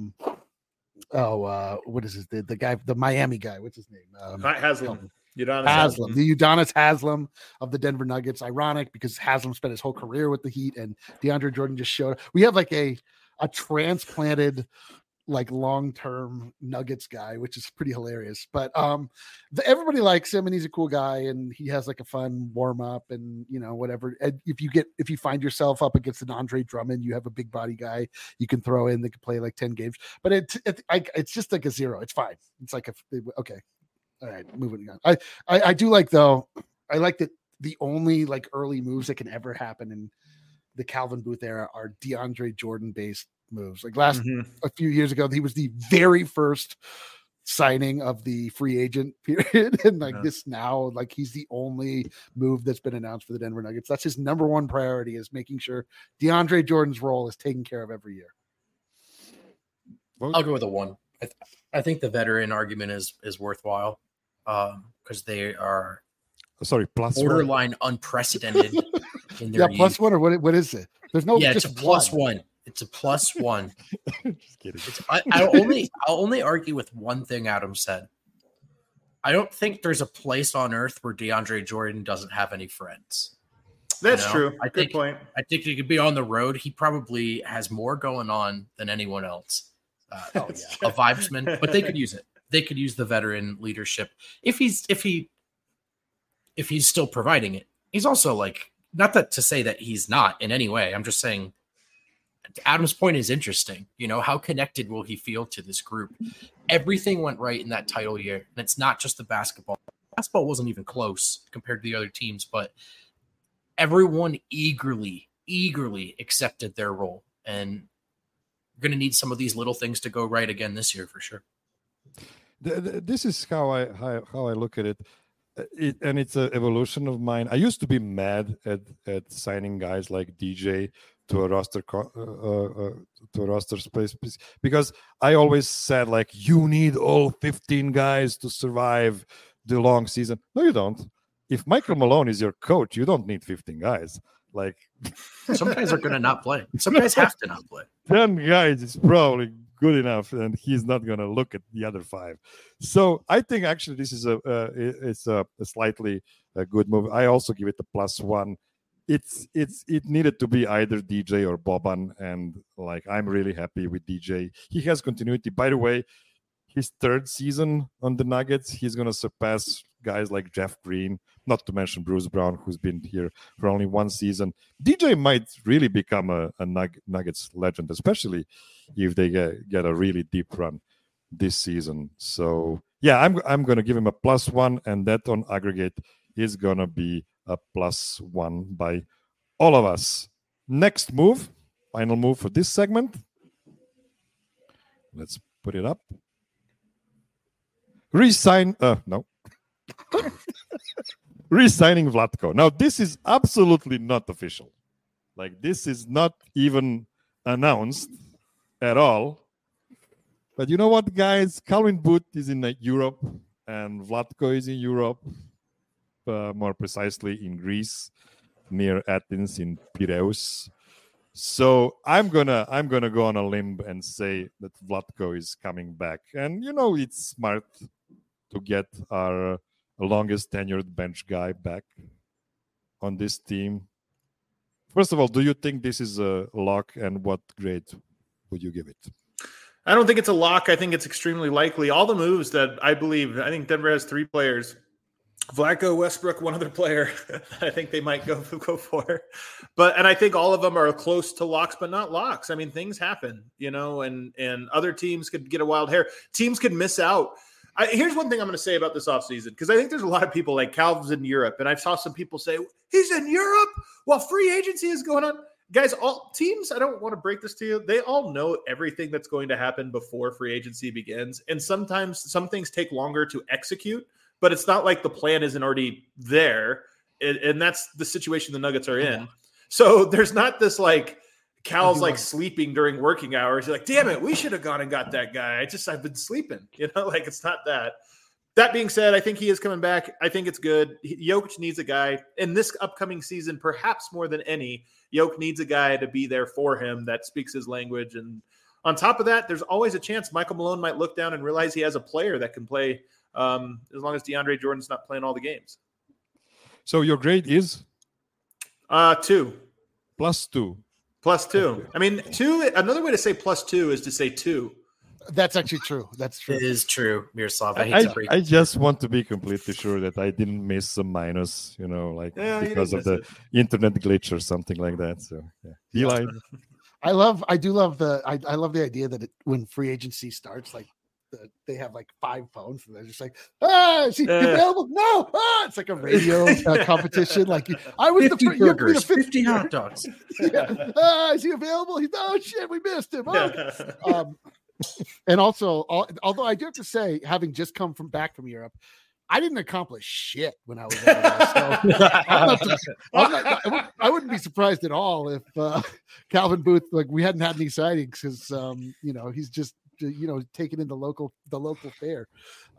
what is his the guy, the Miami guy? What's his name? Haslam. Haslam, the Udonis Haslam of the Denver Nuggets. Ironic because Haslam spent his whole career with the Heat, and DeAndre Jordan just showed. We have like a transplanted, like long-term Nuggets guy, which is pretty hilarious. But everybody likes him, and he's a cool guy, and he has like a fun warm-up, and whatever. And if you find yourself up against an Andre Drummond, you have a big body guy you can throw in that can play like 10 games. But it's just like a 0. It's fine. It's like okay. All right, moving on. I do like, though, I like that the only like early moves that can ever happen in the Calvin Booth era are DeAndre Jordan based moves. Like a few years ago, he was the very first signing of the free agent period. And this now, like he's the only move that's been announced for the Denver Nuggets. That's his number one priority, is making sure DeAndre Jordan's role is taken care of every year. I'll go with a 1. I think the veteran argument is worthwhile because they are borderline unprecedented in their plus 1 or what is it? There's no it's a plus 1. It's a plus 1. Just kidding. I'll only argue with one thing Adam said. I don't think there's a place on earth where DeAndre Jordan doesn't have any friends. That's true. Good point. I think he could be on the road. He probably has more going on than anyone else. A vibesman, but they could use it. They could use the veteran leadership if he's still providing it. He's also like, not that to say that he's not in any way. I'm just saying Adam's point is interesting. How connected will he feel to this group? Everything went right in that title year, and it's not just the basketball. Basketball wasn't even close compared to the other teams, but everyone eagerly accepted their role, and we're going to need some of these little things to go right again this year for sure. This is how I look at it. And it's an evolution of mine. I used to be mad at signing guys like DJ to a roster space because I always said, like, you need all 15 guys to survive the long season. No, you don't. If Michael Malone is your coach, you don't need 15 guys. Like, some guys are going to not play. Some guys have to not play. 10 guys is probably good enough, and he's not going to look at the other 5. So I think actually this is a slightly good move. I also give it a plus 1. It needed to be either DJ or Boban, and like I'm really happy with DJ. He has continuity. By the way, his 3rd season on the Nuggets, he's going to surpass guys like Jeff Green, not to mention Bruce Brown, who's been here for only 1 season. DJ might really become a Nuggets legend, especially if they get a really deep run this season. So yeah, I'm going to give him a plus 1, and that on aggregate is going to be a plus 1 by all of us. Next move, final move for this segment. Let's put it up. Re-signing Vlatko. Now, this is absolutely not official. Like, this is not even announced at all. But you know what, guys? Calvin Booth is in Europe, and Vlatko is in Europe, more precisely in Greece, near Athens in Piraeus. So I'm gonna go on a limb and say that Vlatko is coming back, and it's smart to get our longest tenured bench guy back on this team. First of all, do you think this is a lock, and what grade would you give it? I don't think it's a lock. I think it's extremely likely. All the moves that I think Denver has 3 players. Vlatko, Westbrook, one other player I think they might go for. And I think all of them are close to locks, but not locks. I mean, things happen, and other teams could get a wild hair. Teams could miss out. Here's one thing I'm going to say about this offseason, because I think there's a lot of people like Calvin's in Europe, and I saw some people say, he's in Europe while free agency is going on. Guys, all teams, I don't want to break this to you, they all know everything that's going to happen before free agency begins. And sometimes some things take longer to execute, but it's not like the plan isn't already there. And that's the situation the Nuggets are in. So there's not this like Cal's like sleeping during working hours. You're like, damn it, we should have gone and got that guy. I've been sleeping, like it's not that. That being said, I think he is coming back. I think it's good. Jokic needs a guy in this upcoming season, perhaps more than any. Jokic needs a guy to be there for him that speaks his language. And on top of that, there's always a chance Michael Malone might look down and realize he has a player that can play as long as DeAndre Jordan's not playing all the games. So your grade is? 2. +2. +2. I mean, 2, another way to say +2 is to say 2. That's actually true. That's true. It is true, Miroslav. I just want to be completely sure that I didn't miss a minus, because of the internet glitch or something like that. So yeah, Eli. I love the idea that when free agency starts, like they have like 5 phones and they're just like, is he available? No, it's like a radio competition. Like I was 50 burgers, 50 hot dogs. Is he available? Oh shit, we missed him. And also, although I do have to say, having just come back from Europe, I didn't accomplish shit when I was over there. So I wouldn't be surprised at all if Calvin Booth, like we hadn't had any sightings because he's just taking in the local fare.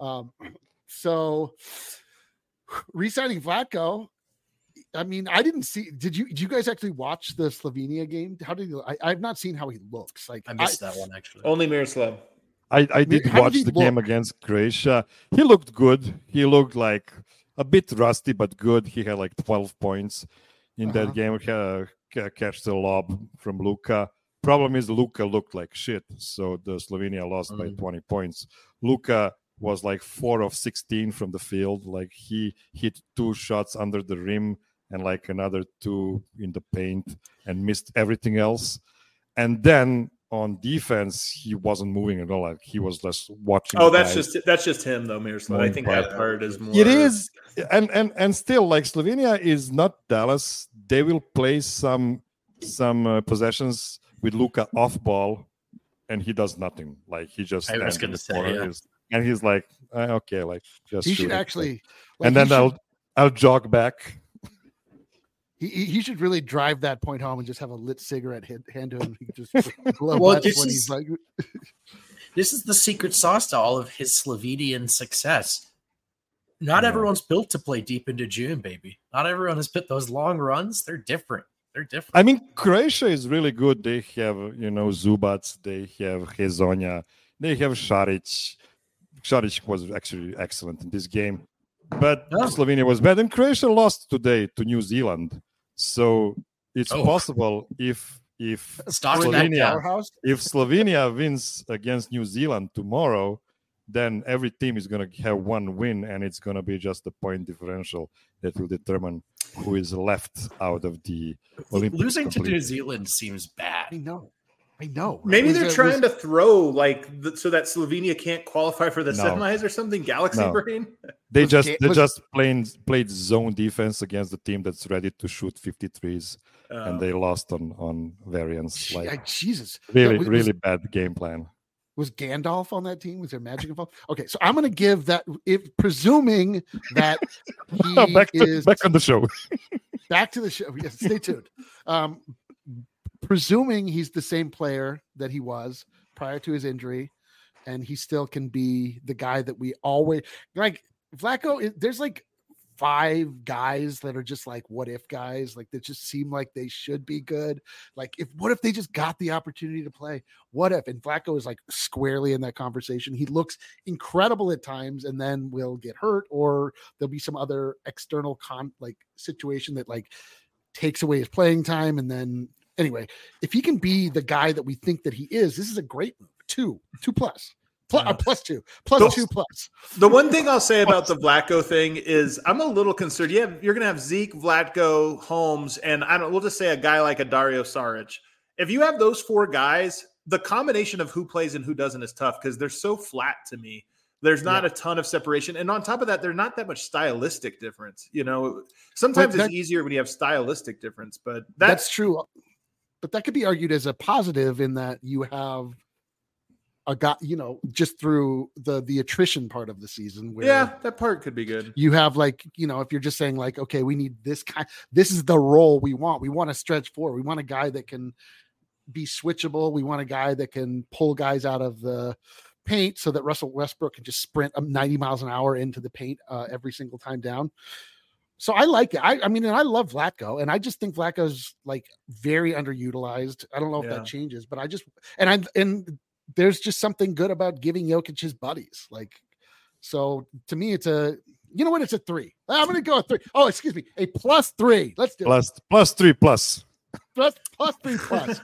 So re-signing Vlatko. I mean, I didn't see. Did you guys actually watch the Slovenia game? How did you? I've not seen how he looks. Like I missed that one actually. Only Miroslav. I did watch the game against Croatia. He looked good. He looked like a bit rusty, but good. He had like 12 points in that game. Catch the lob from Luka. Problem is Luka looked like shit. So the Slovenia lost by 20 points. Luka was like 4 of 16 from the field. Like he hit 2 shots under the rim and like another 2 in the paint and missed everything else. And then on defense, he wasn't moving at all. Like he was just watching. Oh, that's just him though, Miroslav. I think that part is more. It is, and still, like Slovenia is not Dallas. They will play some possessions with Luka off ball, and he does nothing. Like he just. I was going to say, and he's like, okay, like just. He should actually. Like, and then I'll jog back. He should really drive that point home and just have a lit cigarette hand to him. He just blow he's like. This is the secret sauce to all of his Slovenian success. Not everyone's built to play deep into June, baby. Not everyone has put those long runs. They're different. I mean, Croatia is really good. They have, Zubac. They have Hezonja. They have Šarić. Šarić was actually excellent in this game. But Slovenia was bad. And Croatia lost today to New Zealand. So it's possible if Slovenia wins against New Zealand tomorrow, then every team is going to have 1 win, and it's going to be just the point differential that will determine who is left out of the Olympics. Losing to New Zealand seems bad. I know. Right? Maybe they're trying to throw so that Slovenia can't qualify for the semis or something. Galaxy brain. They just played zone defense against the team that's ready to shoot 53s, and they lost on variance. Like Jesus, really bad game plan. Was Gandalf on that team? Was there magic involved? Okay, so I'm going to give that, presuming that he back on the show. Back to the show. Yes, stay tuned. Presuming he's the same player that he was prior to his injury, and he still can be the guy that we always like. Vlatko, there's like 5 guys that are just like what if guys, like that just seem like they should be good. Like what if they just got the opportunity to play? What if? And Flacco is like squarely in that conversation. He looks incredible at times and then will get hurt, or there'll be some other external situation that like takes away his playing time. And then anyway, if he can be the guy that we think that he is, this is a great move. 2 plus. Plus 2 plus. The one thing I'll say about the Vlatko thing is I'm a little concerned. Yeah, you're going to have Zeke, Vlatko, Holmes, and we'll just say a guy like a Dario Saric. If you have those 4 guys, the combination of who plays and who doesn't is tough because they're so flat to me. There's not a ton of separation. And on top of that, there's not that much stylistic difference. Sometimes it's easier when you have stylistic difference, but that's true. But that could be argued as a positive in that you have a guy, just through the attrition part of the season. Where that part could be good. You have if you're just saying like, okay, we need this this is the role we want. We want to stretch forward. We want a guy that can be switchable. We want a guy that can pull guys out of the paint so that Russell Westbrook can just sprint 90 miles an hour into the paint every single time down. So I like it. I mean, and I love Vlatko, and I just think Vlatko's like very underutilized. I don't know if that changes, but and there's just something good about giving Jokic his buddies. Like, so to me, it's it's a 3. I'm going to go a 3. Oh, excuse me. A +3. Let's do it. Plus 3 plus. Plus 3 plus.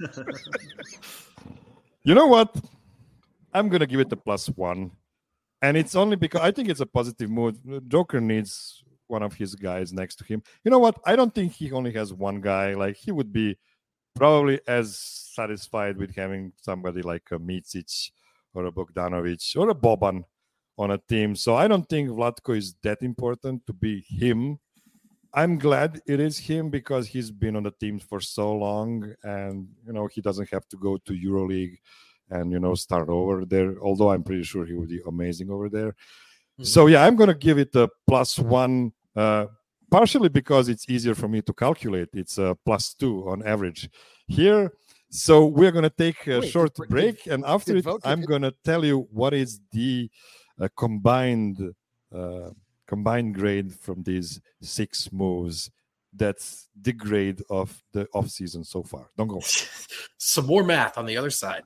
You know what? I'm going to give it a +1. And it's only because I think it's a positive mood. Joker needs one of his guys next to him. You know what? I don't think he only has one guy. Like, he would be probably as satisfied with having somebody like a Micic or a Bogdanovic or a Boban on a team. So I don't think Vlatko is that important to be him. I'm glad it is him because he's been on the team for so long, and he doesn't have to go to EuroLeague and start over there. Although I'm pretty sure he would be amazing over there. Mm-hmm. So yeah, I'm gonna give it a +1. Partially because it's easier for me to calculate. It's a +2 on average here. So we're going to take a short break. And after it, I'm going to tell you what is the combined grade from these 6 moves. That's the grade of the offseason so far. Don't go. Some more math on the other side.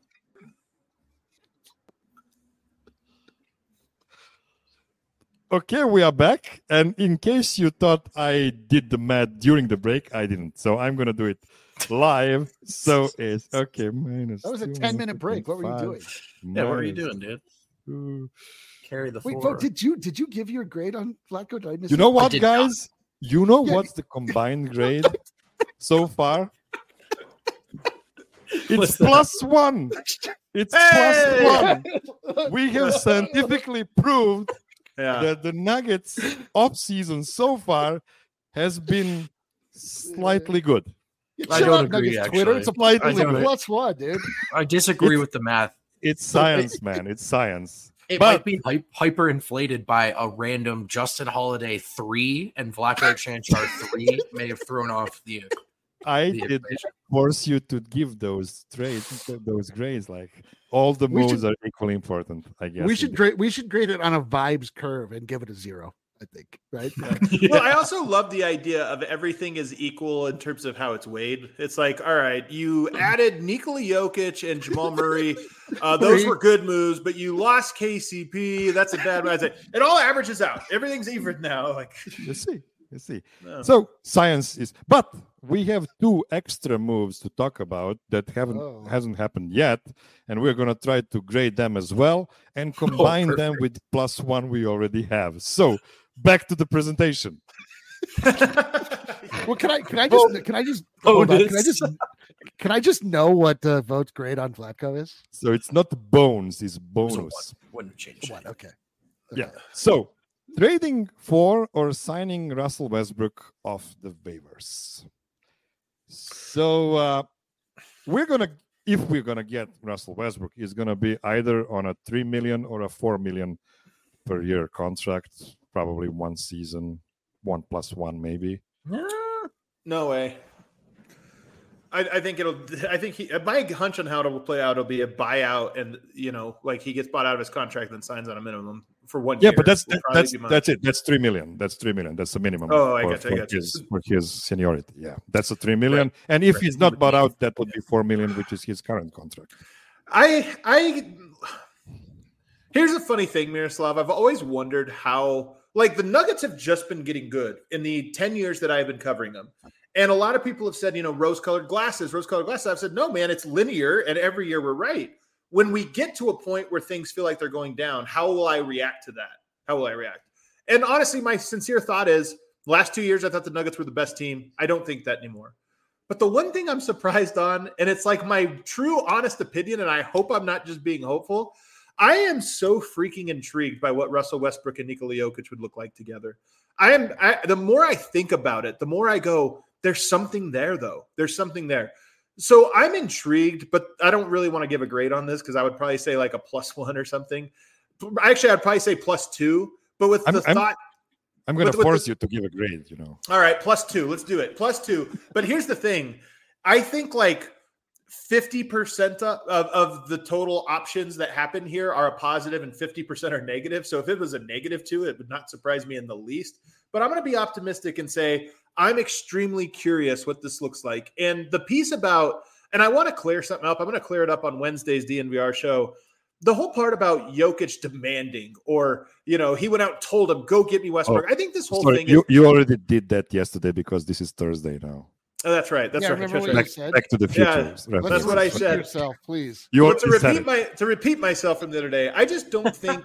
Okay, we are back. And in case you thought I did the math during the break, I didn't. So I'm going to do it live. So it's okay. That was a 10-minute break. What were you doing? Yeah, what were you doing, dude? Carry the floor. Wait, did you give your grade on Vlatko? Did I miss You know what, guys? You know what's the combined grade so far? It's +1. It's +1. We have scientifically proved that the Nuggets offseason so far has been slightly good. I don't agree, actually. Twitter, it's a +1, dude. I disagree with the math. It's science, man. It's science. It might be hyper-inflated by a random Justin Holiday 3 and Vlatko Cancar 3 may have thrown off the I did force you to give those grades. Like, all the moves are equally important, I guess. We should grade it on a vibes curve and give it a 0, I think, right? Well, I also love the idea of everything is equal in terms of how it's weighed. It's like, all right, you added Nikola Jokic and Jamal Murray. Those were good moves, but you lost KCP. That's a bad one. It all averages out. Everything's even now. Like, you see. No. So science is, but we have 2 extra moves to talk about that hasn't happened yet, and we're going to try to grade them as well and combine them with +1 we already have. So back to the presentation. Well, can I just know what Vote's grade on Vlatko is? So it's not bones, it's bonus. Wouldn't change. Okay. Yeah. So trading for or signing Russell Westbrook off the waivers. So if we're gonna get Russell Westbrook, it's gonna be either on a $3 million or a $4 million per year contract, probably 1 season, 1+1 maybe. No way. I think my hunch on how it'll play out will be a buyout, and like he gets bought out of his contract and signs on a minimum for 1 Yeah, year. but that's would probably be that's it. That's 3 million. That's 3 million. That's the minimum. Oh, I for, got you. for his seniority. Yeah, that's a 3 million. Right. And if Right. he's not bought out, that would be 4 million, which is his current contract. Here's a funny thing, Miroslav. I've always wondered how, like, the Nuggets have just been getting good in the 10 years that I've been covering them. And a lot of people have said, rose-colored glasses. I've said, no, man, it's linear, and every year we're right. When we get to a point where things feel like they're going down, how will I react to that? How will I react? And honestly, my sincere thought is, last 2 years, I thought the Nuggets were the best team. I don't think that anymore. But the one thing I'm surprised on, and it's like my true, honest opinion, and I hope I'm not just being hopeful, I am so freaking intrigued by what Russell Westbrook and Nikola Jokic would look like together. The more I think about it, the more I go, there's something there, though. There's something there. So I'm intrigued, but I don't really want to give a grade on this because I would probably say like a +1 or something. Actually, I'd probably say +2, but with the thought. I'm going to force you to give a grade, All right, +2. Let's do it. +2. But here's the thing. I think like 50% of the total options that happen here are a positive and 50% are negative. So if it was a -2, it would not surprise me in the least. But I'm going to be optimistic and say I'm extremely curious what this looks like. And the piece about, and I want to clear something up. I'm going to clear it up on Wednesday's DNVR show. The whole part about Jokic demanding, or, he went out and told him, go get me Westbrook. I think this whole thing you already did that yesterday because this is Thursday now. Oh, that's right. That's right. Remember what right. you said? Back to the future. Yeah, that's what I said. Yourself, please. To repeat myself from the other day, I just don't think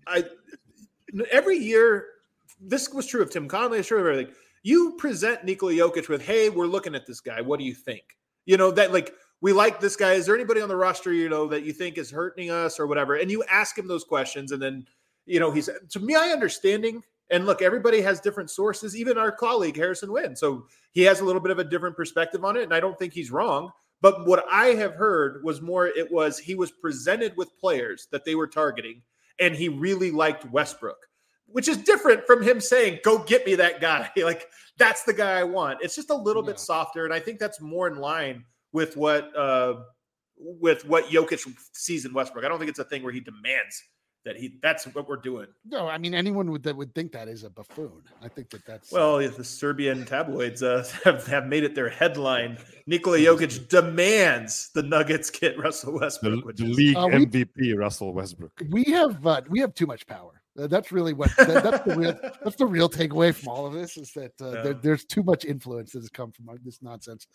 every year, this was true of Tim Connelly, it's true of everything. You present Nikola Jokic with, hey, we're looking at this guy. What do you think? That like, we like this guy. Is there anybody on the roster, that you think is hurting us or whatever? And you ask him those questions. And then, he's, to my understanding, and look, everybody has different sources, even our colleague, Harrison Wynn. So he has a little bit of a different perspective on it. And I don't think he's wrong. But what I have heard was he was presented with players that they were targeting, and he really liked Westbrook, which is different from him saying, go get me that guy. Like, that's the guy I want. It's just a little bit softer. And I think that's more in line with what Jokic sees in Westbrook. I don't think it's a thing where he demands that's what we're doing. No, I mean, anyone would think that is a buffoon. I think that's well, the Serbian tabloids have made it their headline. Nikola Jokic demands the Nuggets get Russell Westbrook, the league MVP Russell Westbrook. We have too much power. That's really what that's the real takeaway from all of this is that there's too much influence that has come from this nonsense.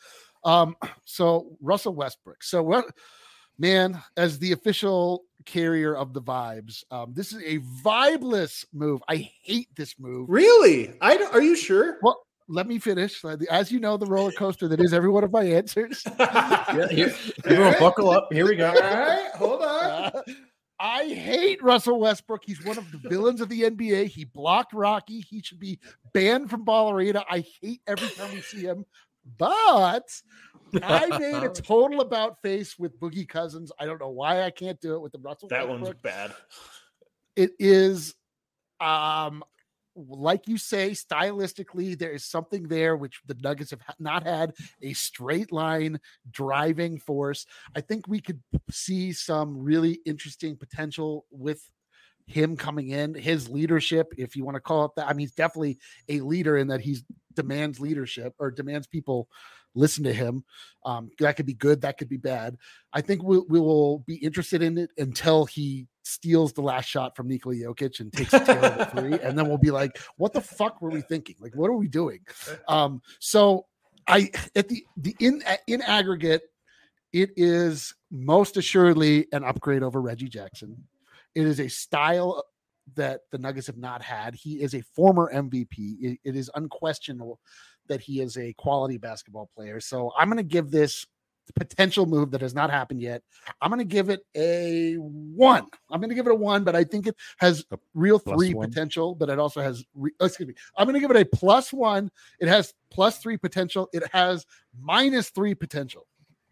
So Russell Westbrook. So what, man, as the official carrier of the vibes, this is a vibeless move. I hate this move. Really? Are you sure? Well, let me finish. As you know, the roller coaster that is every one of my answers. Everyone buckle up. Here we go. All right, hold on. I hate Russell Westbrook. He's one of the villains of the NBA. He blocked Rocky. He should be banned from Ball Arena. I hate every time we see him. But I made a total about face with Boogie Cousins. I don't know why I can't do it with the Russell Westbrook. That one's bad. It is, like you say, stylistically, there is something there which the Nuggets have not had a straight line driving force. I think we could see some really interesting potential with him coming in, his leadership, if you want to call it that. I mean, he's definitely a leader in that he demands leadership or demands people listen to him. That could be good. That could be bad. I think we will be interested in it until he steals the last shot from Nikola Jokic and takes a terrible three. And then we'll be like, what the fuck were we thinking? Like, what are we doing? So in aggregate, it is most assuredly an upgrade over Reggie Jackson. It is a style that the Nuggets have not had. He is a former MVP. It is unquestionable that he is a quality basketball player. So I'm going to give this potential move that has not happened yet. I'm going to give it a 1. I'm going to give it a 1, but I think it has real 3 potential, but it also has, I'm going to give it a +1. It has +3 potential. It has -3 potential.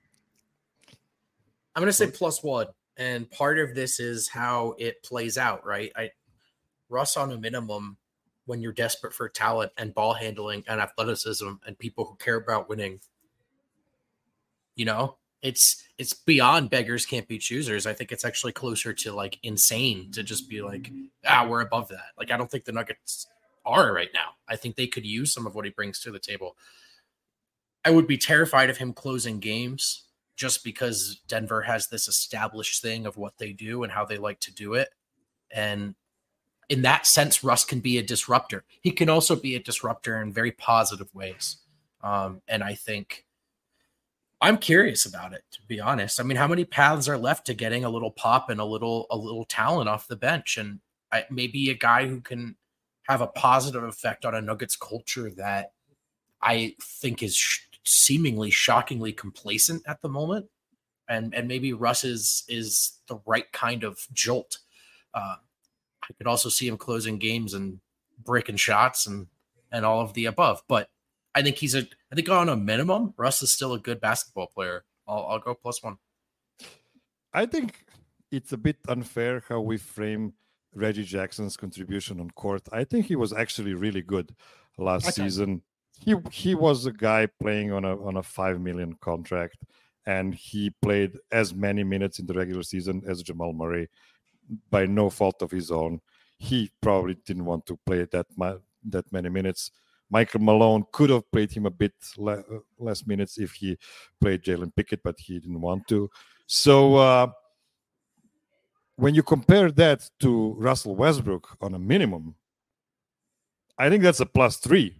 I'm going to say +1. And part of this is how it plays out, right? Russ on a minimum, when you're desperate for talent and ball handling and athleticism and people who care about winning, it's beyond beggars can't be choosers. I think it's actually closer to like insane to just be like, we're above that. Like, I don't think the Nuggets are right now. I think they could use some of what he brings to the table. I would be terrified of him closing games just because Denver has this established thing of what they do and how they like to do it. And in that sense, Russ can be a disruptor. He can also be a disruptor in very positive ways. And I think I'm curious about it, to be honest. I mean, how many paths are left to getting a little pop and a little talent off the bench? And maybe a guy who can have a positive effect on a Nuggets culture that I think is seemingly shockingly complacent at the moment. And maybe Russ is the right kind of jolt. I could also see him closing games and breaking shots and all of the above. But I think I think on a minimum, Russ is still a good basketball player. I'll go +1. I think it's a bit unfair how we frame Reggie Jackson's contribution on court. I think he was actually really good last season. He was a guy playing on a $5 million contract, and he played as many minutes in the regular season as Jamal Murray by no fault of his own. He probably didn't want to play that many minutes. Michael Malone could have played him a bit less minutes if he played Jalen Pickett, but he didn't want to. So when you compare that to Russell Westbrook on a minimum, I think that's a +3.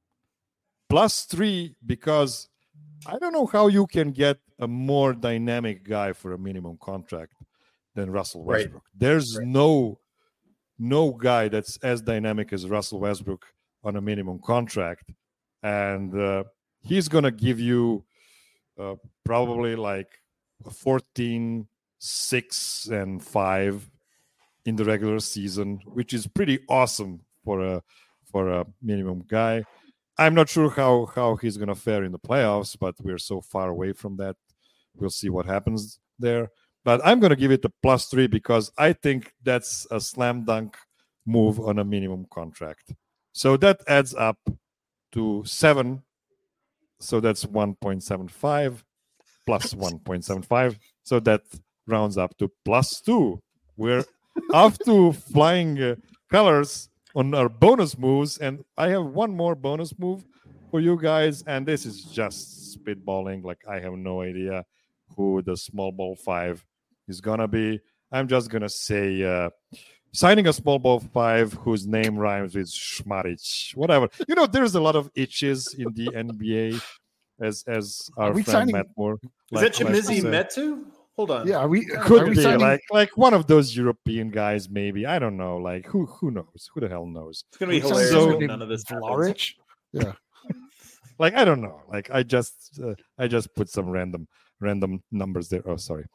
+3 because I don't know how you can get a more dynamic guy for a minimum contract than Russell Westbrook. Right. There's no guy that's as dynamic as Russell Westbrook on a minimum contract. And he's going to give you probably like 14, 6, and 5 in the regular season, which is pretty awesome for a minimum guy. I'm not sure how he's going to fare in the playoffs, but we're so far away from that. We'll see what happens there. But I'm going to give it a +3 because I think that's a slam dunk move on a minimum contract. So that adds up to 7. So that's 1.75 plus 1.75. So that rounds up to +2. We're off to flying colors on our bonus moves. And I have one more bonus move for you guys. And this is just spitballing. Like, I have no idea who the small ball 5 is going to be. I'm just going to say signing a small ball 5 whose name rhymes with Schmarich. Whatever. You know, there's a lot of itches in the NBA, as our friend Matt Moore. Is that Chimezie Metu? Hold on. Yeah, could be like one of those European guys, maybe. I don't know. Like who knows? Who the hell knows? It's gonna be hilarious. So, none of this Vlahovic? Yeah. Like, I don't know. Like, I just put some random numbers there. Oh, sorry.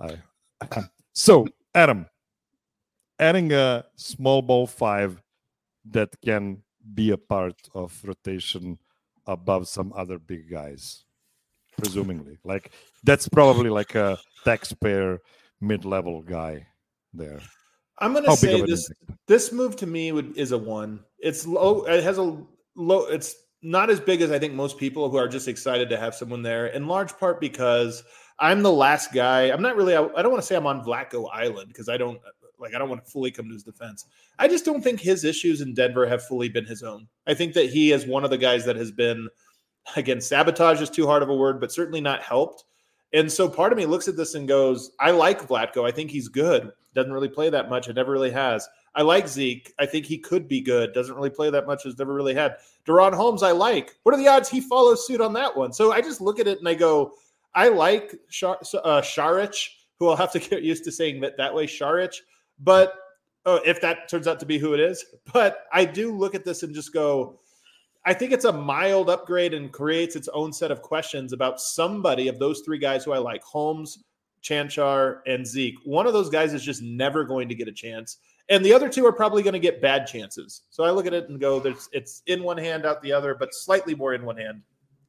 So, Adam, adding a small ball 5 that can be a part of rotation above some other big guys, presumably. Like, that's probably like a taxpayer mid-level guy there. I'm going to say this move to me is a 1. It's low. It has a low. It's not as big as I think most people who are just excited to have someone there, in large part because I'm the last guy. I'm not really. I don't want to say I'm on Vlatko Island because I don't want to fully come to his defense. I just don't think his issues in Denver have fully been his own. I think that he is one of the guys that has been, again, sabotage is too hard of a word, but certainly not helped. And so part of me looks at this and goes, I like Vlatko. I think he's good. Doesn't really play that much. It never really has. I like Zeke. I think he could be good. Doesn't really play that much. Has never really had. De'Ron Holmes, I like. What are the odds he follows suit on that one? So I just look at it and I go, I like Šarić, who I'll have to get used to saying that way, Šarić. But if that turns out to be who it is. But I do look at this and just go, I think it's a mild upgrade and creates its own set of questions about somebody of those 3 guys who I like, Holmes, Chanchar, and Zeke. One of those guys is just never going to get a chance. And the other 2 are probably going to get bad chances. So I look at it and go, it's in one hand, out the other, but slightly more in one hand.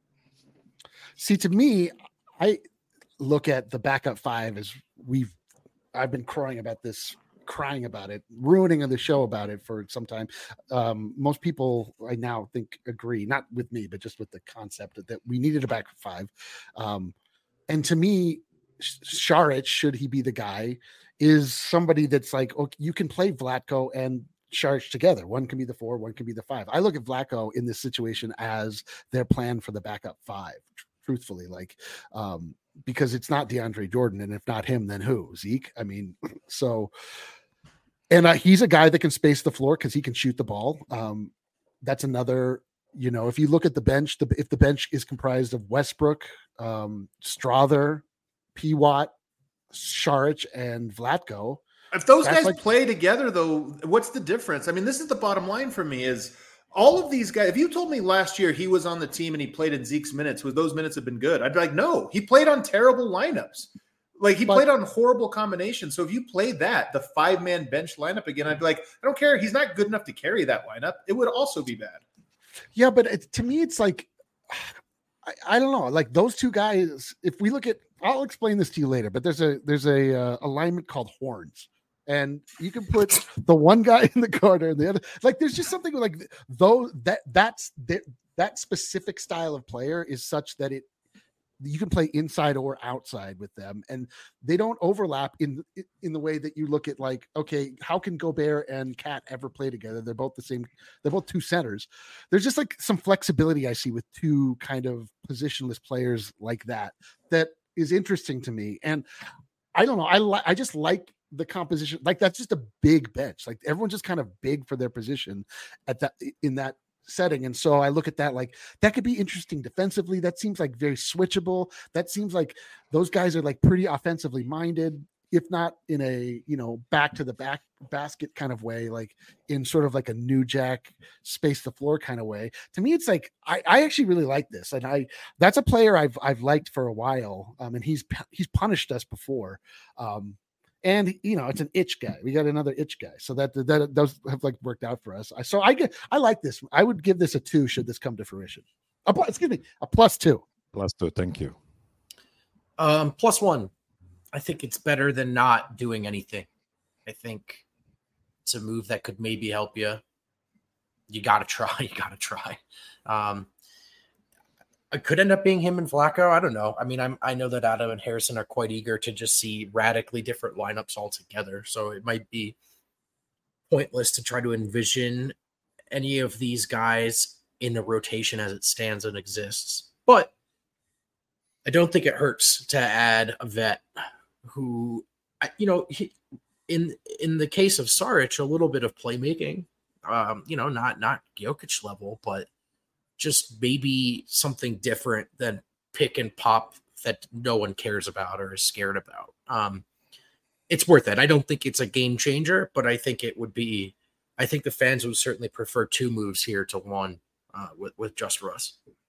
See, to me, I look at the backup 5 as I've been crying about it, ruining the show about it for some time. Most people I now think agree, not with me, but just with the concept that we needed a backup 5. And to me, Šarić, should he be the guy, is somebody that's like, okay, you can play Vlatko and Šarić together. One can be the 4, one can be the 5. I look at Vlatko in this situation as their plan for the backup 5, truthfully, like, because it's not DeAndre Jordan, and if not him, then who? Zeke? I mean, so, and he's a guy that can space the floor because he can shoot the ball. That's another, if you look at the bench, if the bench is comprised of Westbrook, Strawther, P. Watt, Šarić, and Vlatko. If those guys play together, though, what's the difference? I mean, this is the bottom line for me is all of these guys. If you told me last year he was on the team and he played in Zeke's minutes, would those minutes have been good? I'd be like, no, he played on terrible lineups. Like he played on horrible combinations. So if you played the 5-man bench lineup again, I'd be like, I don't care. He's not good enough to carry that lineup. It would also be bad. Yeah, but to me, it's like, I don't know. Like those two guys, if we look at, I'll explain this to you later, but there's a alignment called horns. And you can put the one guy in the corner and the other. Like, there's just something like that specific style of player is such that you can play inside or outside with them, and they don't overlap in the way that you look at, like, okay, how can Gobert and Cat ever play together? They're both the same. They're both two centers. There's just like some flexibility I see with two kind of positionless players like that is interesting to me. And I don't know. I just like the composition. Like, that's just a big bench. Like, everyone's just kind of big for their position in that setting. And so I look at that, like, that could be interesting defensively. That seems like very switchable. That seems like those guys are like pretty offensively minded, if not in a, back to the back basket kind of way, like in sort of like a new Jack space the floor kind of way. To me, it's like, I actually really like this. And that's a player I've liked for a while. And he's punished us before. And it's an itch guy. We got another itch guy, so that those have like worked out for us. I like this. I would give this a 2 should this come to fruition. A +2. +2. Thank you. +1. I think it's better than not doing anything. I think it's a move that could maybe help you. You got to try. It could end up being him and Vlatko. I don't know. I mean, I know that Adam and Harrison are quite eager to just see radically different lineups altogether. So it might be pointless to try to envision any of these guys in the rotation as it stands and exists. But I don't think it hurts to add a vet who, in the case of Šarić, a little bit of playmaking, not Jokic level, but just maybe something different than pick and pop that no one cares about or is scared about. It's worth it. I don't think it's a game changer, but I think I think the fans would certainly prefer 2 moves here to 1 with just Russ.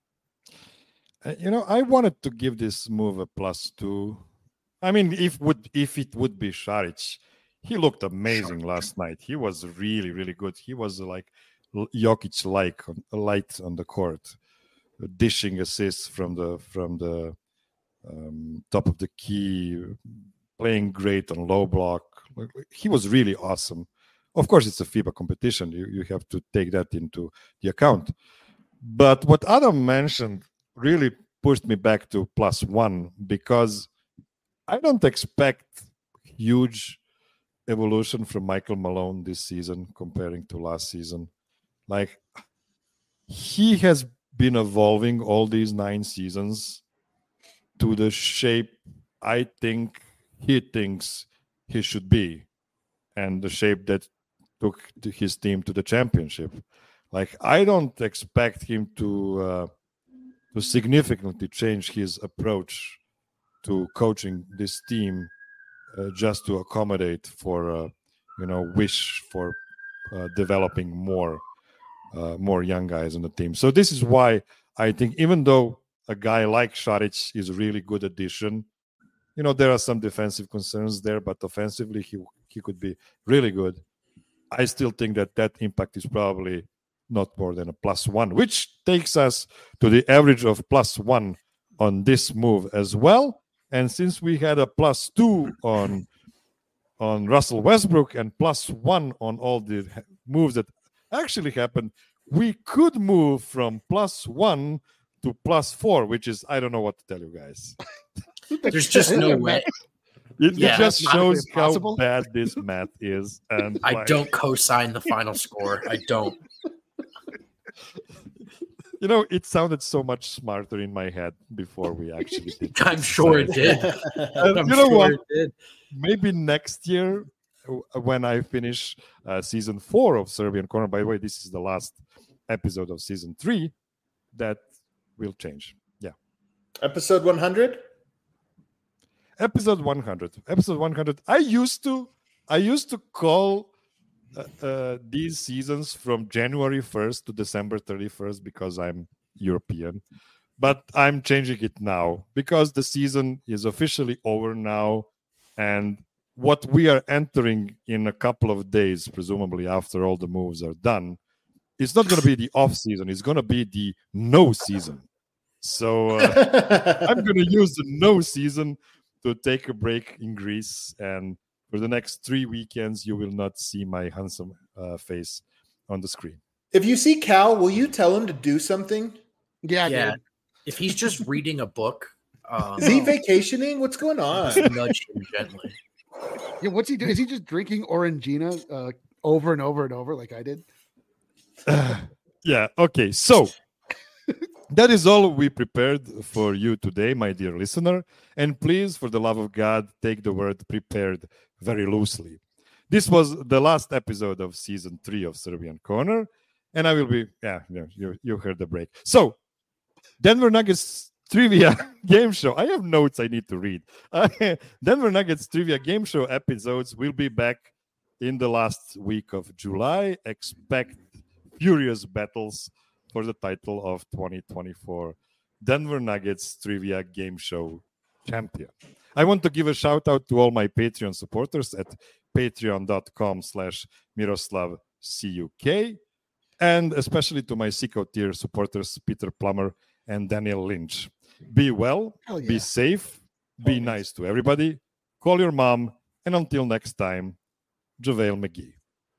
I wanted to give this move a +2. I mean, if it would be Šarić, he looked amazing last night. He was really, really good. He was like Jokic light on the court, dishing assists from the top of the key, playing great on low block. He was really awesome. Of course, it's a FIBA competition. You have to take that into the account. But what Adam mentioned really pushed me back to +1, because I don't expect huge evolution from Michael Malone this season comparing to last season. Like, he has been evolving all these 9 seasons to the shape I think he thinks he should be, and the shape that took his team to the championship. Like, I don't expect him to significantly change his approach to coaching this team just to accommodate for wish for developing more young guys on the team. So this is why I think, even though a guy like Šarić is a really good addition, there are some defensive concerns there, but offensively he could be really good. I still think that impact is probably not more than a +1, which takes us to the average of +1 on this move as well. And since we had a +2 on Russell Westbrook and +1 on all the moves that actually happened, we could move from +1 to +4, which is, I don't know what to tell you guys. There's just no way. It Yeah, just that's shows how impossible. bad this math is. And I like, don't co-sign the final score. I don't. You know, it sounded so much smarter in my head before we actually did. I'm sure it did. I'm You know sure what? it did. Maybe next year, when I finish season 4 of Serbian Corner. By the way, this is the last episode of season 3. That will change. Yeah. Episode 100. Episode 100. Episode 100. I used to call these seasons from January 1st to December 31st because I'm European. But I'm changing it now because the season is officially over now. And what we are entering in a couple of days, presumably after all the moves are done, it's not going to be the off season. It's going to be the no season. So I'm going to use the no season to take a break in Greece. And for the next 3 weekends, you will not see my handsome face on the screen. If you see Cal, will you tell him to do something? Yeah, Yeah. dude. If he's just reading a book, Is he vacationing? What's going on? just nudge him gently. Yeah, what's he doing? Is he just drinking Orangina over and over and over like I did? Yeah. Okay. So that is all we prepared for you today, my dear listener. And please, for the love of God, take the word prepared very loosely. This was the last episode of season 3 of Serbian Corner. And I will be, you heard the break. So, Denver Nuggets trivia game show. I have notes I need to read. Denver Nuggets trivia game show episodes will be back in the last week of July. Expect furious battles for the title of 2024 Denver Nuggets Trivia Game Show Champion. I want to give a shout out to all my Patreon supporters at patreon.com/MiroslavCuk, and especially to my Sicko tier supporters, Peter Plummer and Daniel Lynch. Be well, Hell yeah. be safe, be nice to everybody, call your mom, and until next time, JaVale McGee.